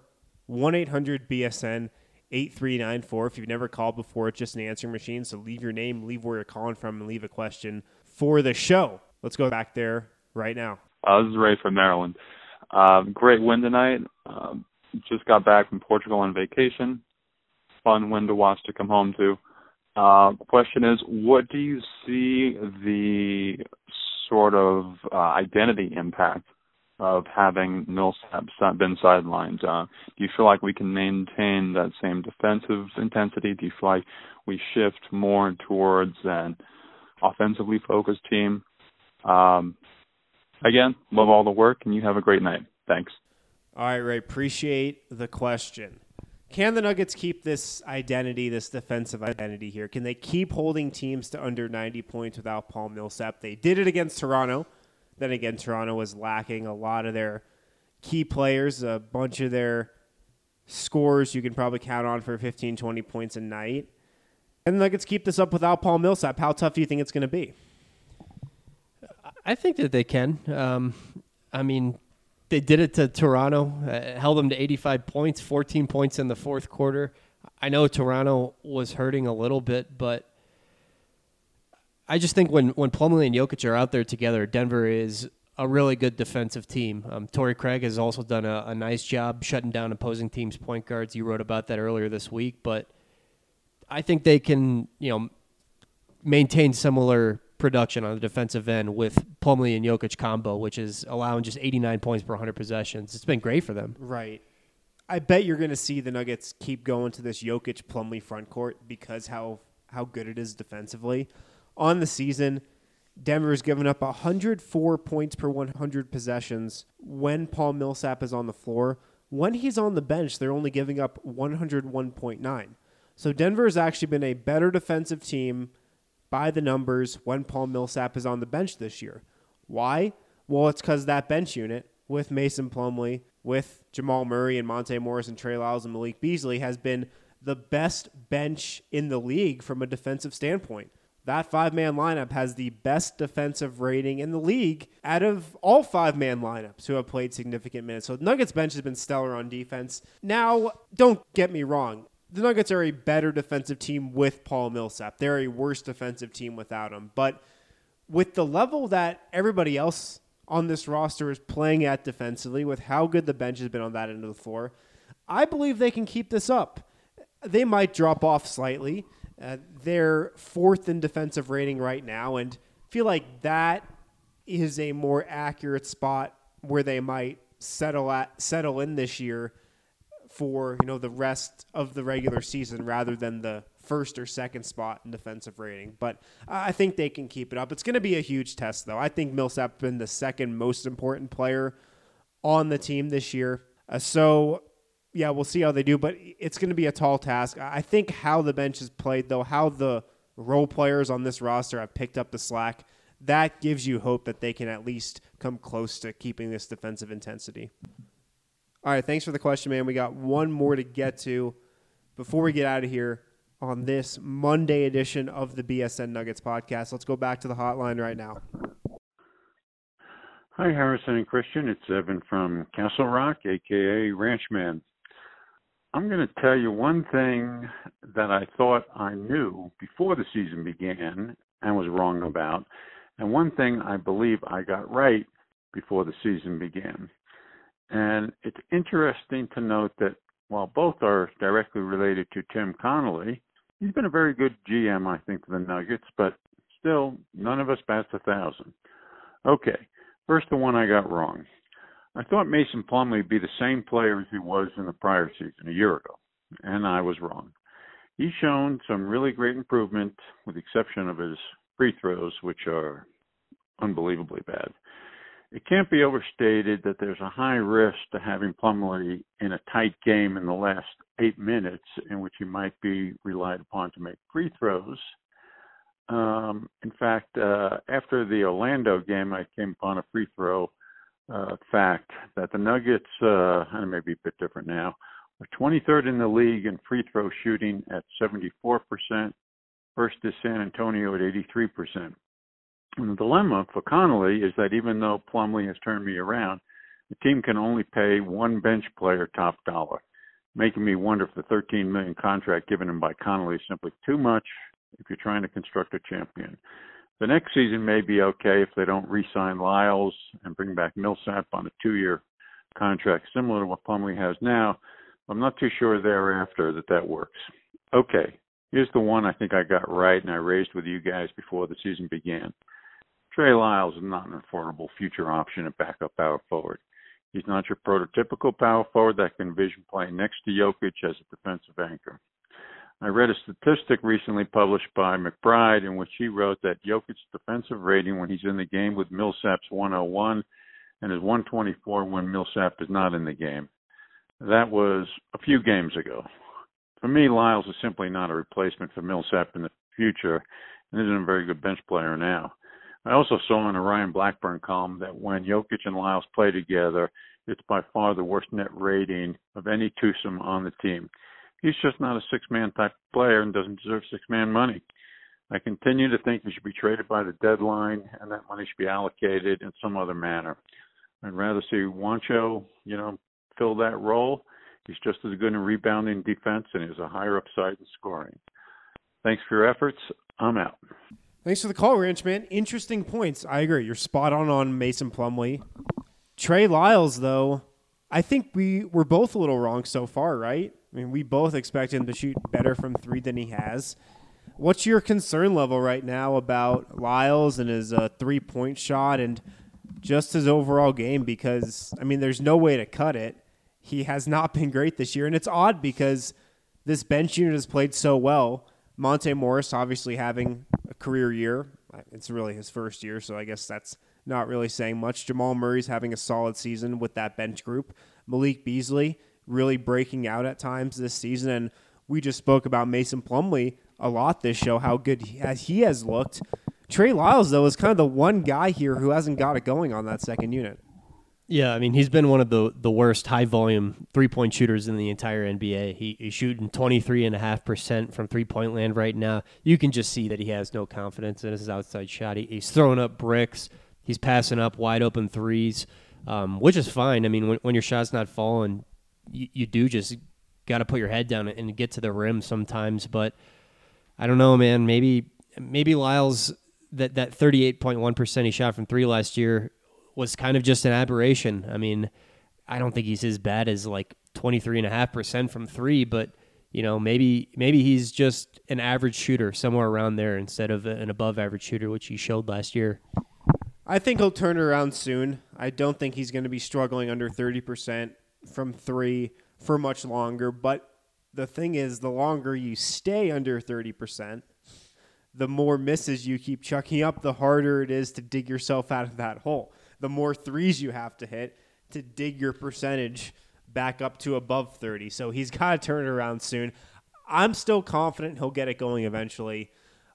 Speaker 1: 1-800-BSN-8394. If you've never called before, it's just an answering machine, so leave your name, leave where you're calling from, and leave a question for the show. Let's go back there right now.
Speaker 9: This is Ray from Maryland. Great win tonight. Just got back from Portugal on vacation. Fun win to watch to come home to. Question is, what do you see the sort of identity impact of having Millsap been sidelined? Do you feel like we can maintain that same defensive intensity? Do you feel like we shift more towards an offensively focused team? Again, love all the work, and you have a great night. Thanks.
Speaker 1: All right, Ray, appreciate the question. Can the Nuggets keep this identity, this defensive identity here? Can they keep holding teams to under 90 points without Paul Millsap? They did it against Toronto. Then again, Toronto was lacking a lot of their key players, a bunch of their scorers you can probably count on for 15, 20 points a night. And the Nuggets keep this up without Paul Millsap. How tough do you think it's going to be?
Speaker 5: I think that they can. I mean, they did it to Toronto, held them to 85 points, 14 points in the fourth quarter. I know Toronto was hurting a little bit, but I just think when Plumlee and Jokic are out there together, Denver is a really good defensive team. Torrey Craig has also done a nice job shutting down opposing teams' point guards. You wrote about that earlier this week, but I think they can, maintain similar production on the defensive end with Plumlee and Jokic combo, which is allowing just 89 points per 100 possessions. It's been great for them.
Speaker 1: Right. I bet you're going to see the Nuggets keep going to this Jokic-Plumlee front court because how good it is defensively. On the season, Denver's given up 104 points per 100 possessions when Paul Millsap is on the floor. When he's on the bench, they're only giving up 101.9. So Denver has actually been a better defensive team by the numbers when Paul Millsap is on the bench this year. Why? Well, it's because that bench unit with Mason Plumlee, with Jamal Murray and Monte Morris and Trey Lyles and Malik Beasley has been the best bench in the league from a defensive standpoint. That 5-man lineup has the best defensive rating in the league out of all 5-man lineups who have played significant minutes. So the Nuggets bench has been stellar on defense. Now, don't get me wrong. The Nuggets are a better defensive team with Paul Millsap. They're a worse defensive team without him. But with the level that everybody else on this roster is playing at defensively, with how good the bench has been on that end of the floor, I believe they can keep this up. They might drop off slightly. They're fourth in defensive rating right now, and feel like that is a more accurate spot where they might settle in this year for the rest of the regular season rather than the first or second spot in defensive rating. But I think they can keep it up. It's going to be a huge test, though. I think Millsap's been the second most important player on the team this year. So, yeah, we'll see how they do. But it's going to be a tall task. I think how the bench is played, though, how the role players on this roster have picked up the slack, that gives you hope that they can at least come close to keeping this defensive intensity. All right, thanks for the question, man. We got one more to get to before we get out of here on this Monday edition of the BSN Nuggets podcast. Let's go back to the hotline right now.
Speaker 10: Hi, Harrison and Christian. It's Evan from Castle Rock, a.k.a. Ranchman. I'm going to tell you one thing that I thought I knew before the season began and was wrong about, and one thing I believe I got right before the season began. And it's interesting to note that while both are directly related to Tim Connolly, he's been a very good GM, I think, for the Nuggets, but still, none of us bats 1,000. Okay, first the one I got wrong. I thought Mason Plumlee would be the same player as he was in the prior season, a year ago, and I was wrong. He's shown some really great improvement, with the exception of his free throws, which are unbelievably bad. It can't be overstated that there's a high risk to having Plumlee in a tight game in the last 8 minutes in which he might be relied upon to make free throws. In fact, after the Orlando game, I came upon a free throw fact that the Nuggets, and it may be a bit different now, are 23rd in the league in free throw shooting at 74%. First is San Antonio at 83%. And the dilemma for Connolly is that even though Plumlee has turned me around, the team can only pay one bench player top dollar, making me wonder if the $13 million contract given him by Connolly is simply too much if you're trying to construct a champion. The next season may be okay if they don't re-sign Lyles and bring back Millsap on a 2-year contract similar to what Plumlee has now. I'm not too sure thereafter that works. Okay, here's the one I think I got right and I raised with you guys before the season began. Trey Lyles is not an affordable future option at backup power forward. He's not your prototypical power forward that can envision playing next to Jokic as a defensive anchor. I read a statistic recently published by McBride in which he wrote that Jokic's defensive rating when he's in the game with Millsap's 101 and is 124 when Millsap is not in the game. That was a few games ago. For me, Lyles is simply not a replacement for Millsap in the future and isn't a very good bench player now. I also saw in a Ryan Blackburn column that when Jokic and Lyles play together, it's by far the worst net rating of any twosome on the team. He's just not a six-man type player and doesn't deserve six-man money. I continue to think he should be traded by the deadline and that money should be allocated in some other manner. I'd rather see Juancho, fill that role. He's just as good in rebounding defense and has a higher upside in scoring. Thanks for your efforts. I'm out.
Speaker 1: Thanks for the call, Ranchman. Interesting points. I agree. You're spot on Mason Plumlee. Trey Lyles, though, I think we're both a little wrong so far, right? I mean, we both expect him to shoot better from three than he has. What's your concern level right now about Lyles and his three-point shot and just his overall game? Because, I mean, there's no way to cut it. He has not been great this year, and it's odd because this bench unit has played so well. Monte Morris obviously having a career year. It's really his first year, so I guess that's not really saying much. Jamal Murray's having a solid season with that bench group. Malik Beasley really breaking out at times this season, and we just spoke about Mason Plumlee a lot this show, how good he has looked. Trey Lyles, though, is kind of the one guy here who hasn't got it going on that second unit.
Speaker 5: Yeah, I mean, he's been one of the worst high-volume three-point shooters in the entire NBA. He's shooting 23.5% from three-point land right now. You can just see that he has no confidence in his outside shot. He's throwing up bricks. He's passing up wide-open threes, which is fine. I mean, when your shot's not falling, you do just got to put your head down and get to the rim sometimes. But I don't know, man. Maybe Lyles, that 38.1% he shot from three last year was kind of just an aberration. I mean, I don't think he's as bad as like 23.5% from three, but maybe he's just an average shooter somewhere around there instead of an above average shooter, which he showed last year.
Speaker 1: I think he'll turn it around soon. I don't think he's going to be struggling under 30% from three for much longer, but The thing is, the longer you stay under 30%, the more misses you keep chucking up, the harder it is to dig yourself out of that hole. The more threes you have to hit to dig your percentage back up to above 30. So he's got to turn it around soon. I'm still confident he'll get it going eventually.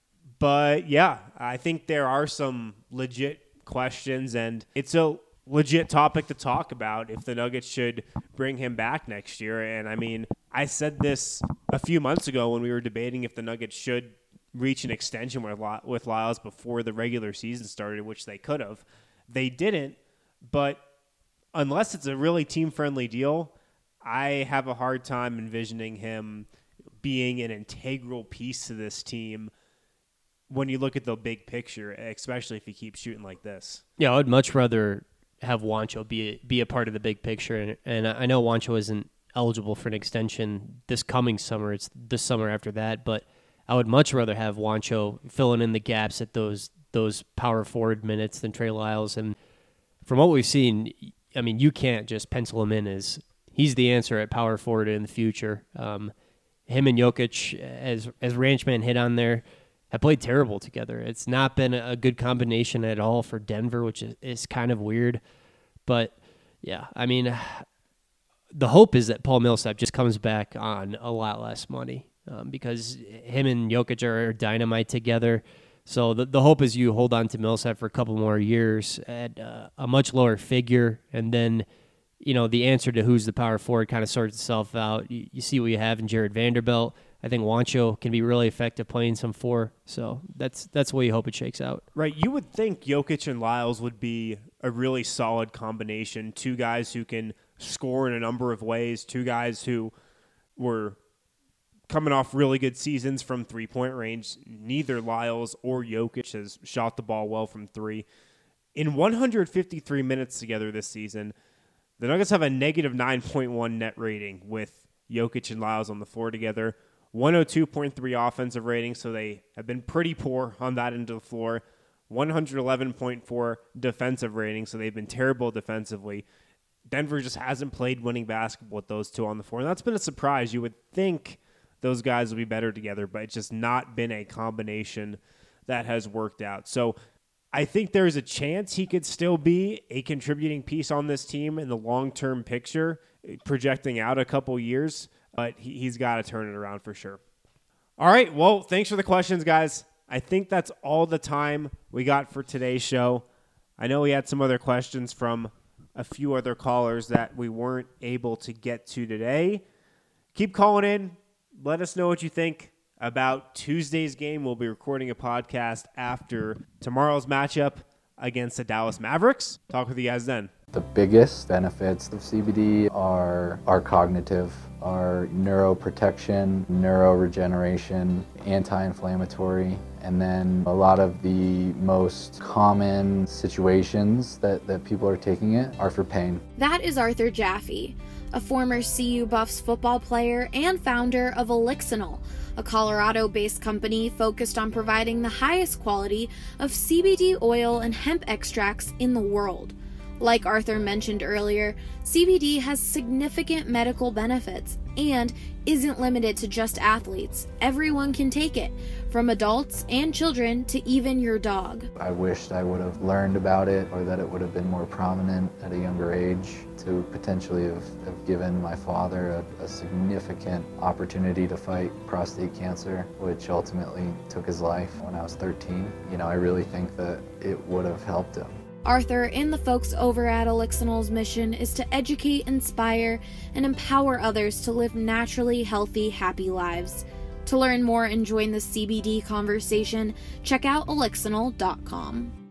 Speaker 1: But, yeah, I think there are some legit questions, and it's a legit topic to talk about if the Nuggets should bring him back next year. And, I mean, I said this a few months ago when we were debating if the Nuggets should reach an extension with Lyles before the regular season started, which they could have. They didn't, but unless it's a really team-friendly deal, I have a hard time envisioning him being an integral piece to this team when you look at the big picture, especially if he keeps shooting like this.
Speaker 5: Yeah, I would much rather have Juancho be a part of the big picture. And I know Juancho isn't eligible for an extension this coming summer. It's this summer after that. But I would much rather have Juancho filling in the gaps at those power forward minutes than Trey Lyles. And from what we've seen, I mean, you can't just pencil him in as he's the answer at power forward in the future. Him and Jokic, as Ranchman hit on there, have played terrible together. It's not been a good combination at all for Denver, which is kind of weird. But, yeah, I mean, the hope is that Paul Millsap just comes back on a lot less money because him and Jokic are dynamite together. So the hope is you hold on to Millsap for a couple more years at a much lower figure, and then, you know, the answer to who's the power forward kind of sorts itself out. You see what you have in Jared Vanderbilt. I think Juancho can be really effective playing some four, so that's the way you hope it shakes out.
Speaker 1: Right, you would think Jokic and Lyles would be a really solid combination. Two guys who can score in a number of ways, two guys who were coming off really good seasons from three-point range. Neither Lyles or Jokic has shot the ball well from three. In 153 minutes together this season, the Nuggets have a negative 9.1 net rating with Jokic and Lyles on the floor together. 102.3 offensive rating, so they have been pretty poor on that end of the floor. 111.4 defensive rating, so they've been terrible defensively. Denver just hasn't played winning basketball with those two on the floor, and that's been a surprise. You would think those guys would be better together, but it's just not been a combination that has worked out. So I think there's a chance he could still be a contributing piece on this team in the long-term picture, projecting out a couple years, but he's got to turn it around for sure. All right, well, thanks for the questions, guys. I think that's all the time we got for today's show. I know we had some other questions from a few other callers that we weren't able to get to today. Keep calling in. Let us know what you think about Tuesday's game. We'll be recording a podcast after tomorrow's matchup against the Dallas Mavericks. Talk with you guys then.
Speaker 11: The biggest benefits of CBD are cognitive, are neuroprotection, neuroregeneration, anti-inflammatory, and then a lot of the most common situations that people are taking it are for pain.
Speaker 6: That is Arthur Jaffe, a former CU Buffs football player and founder of Elixinol, a Colorado-based company focused on providing the highest quality of CBD oil and hemp extracts in the world. Like Arthur mentioned earlier, CBD has significant medical benefits and isn't limited to just athletes. Everyone can take it, from adults and children to even your dog.
Speaker 11: I wished I would have learned about it, or that it would have been more prominent at a younger age to potentially have given my father a significant opportunity to fight prostate cancer, which ultimately took his life when I was 13. You know, I really think that it would have helped him.
Speaker 6: Arthur and the folks over at Elixinol's mission is to educate, inspire, and empower others to live naturally healthy, happy lives. To learn more and join the CBD conversation, check out elixinol.com.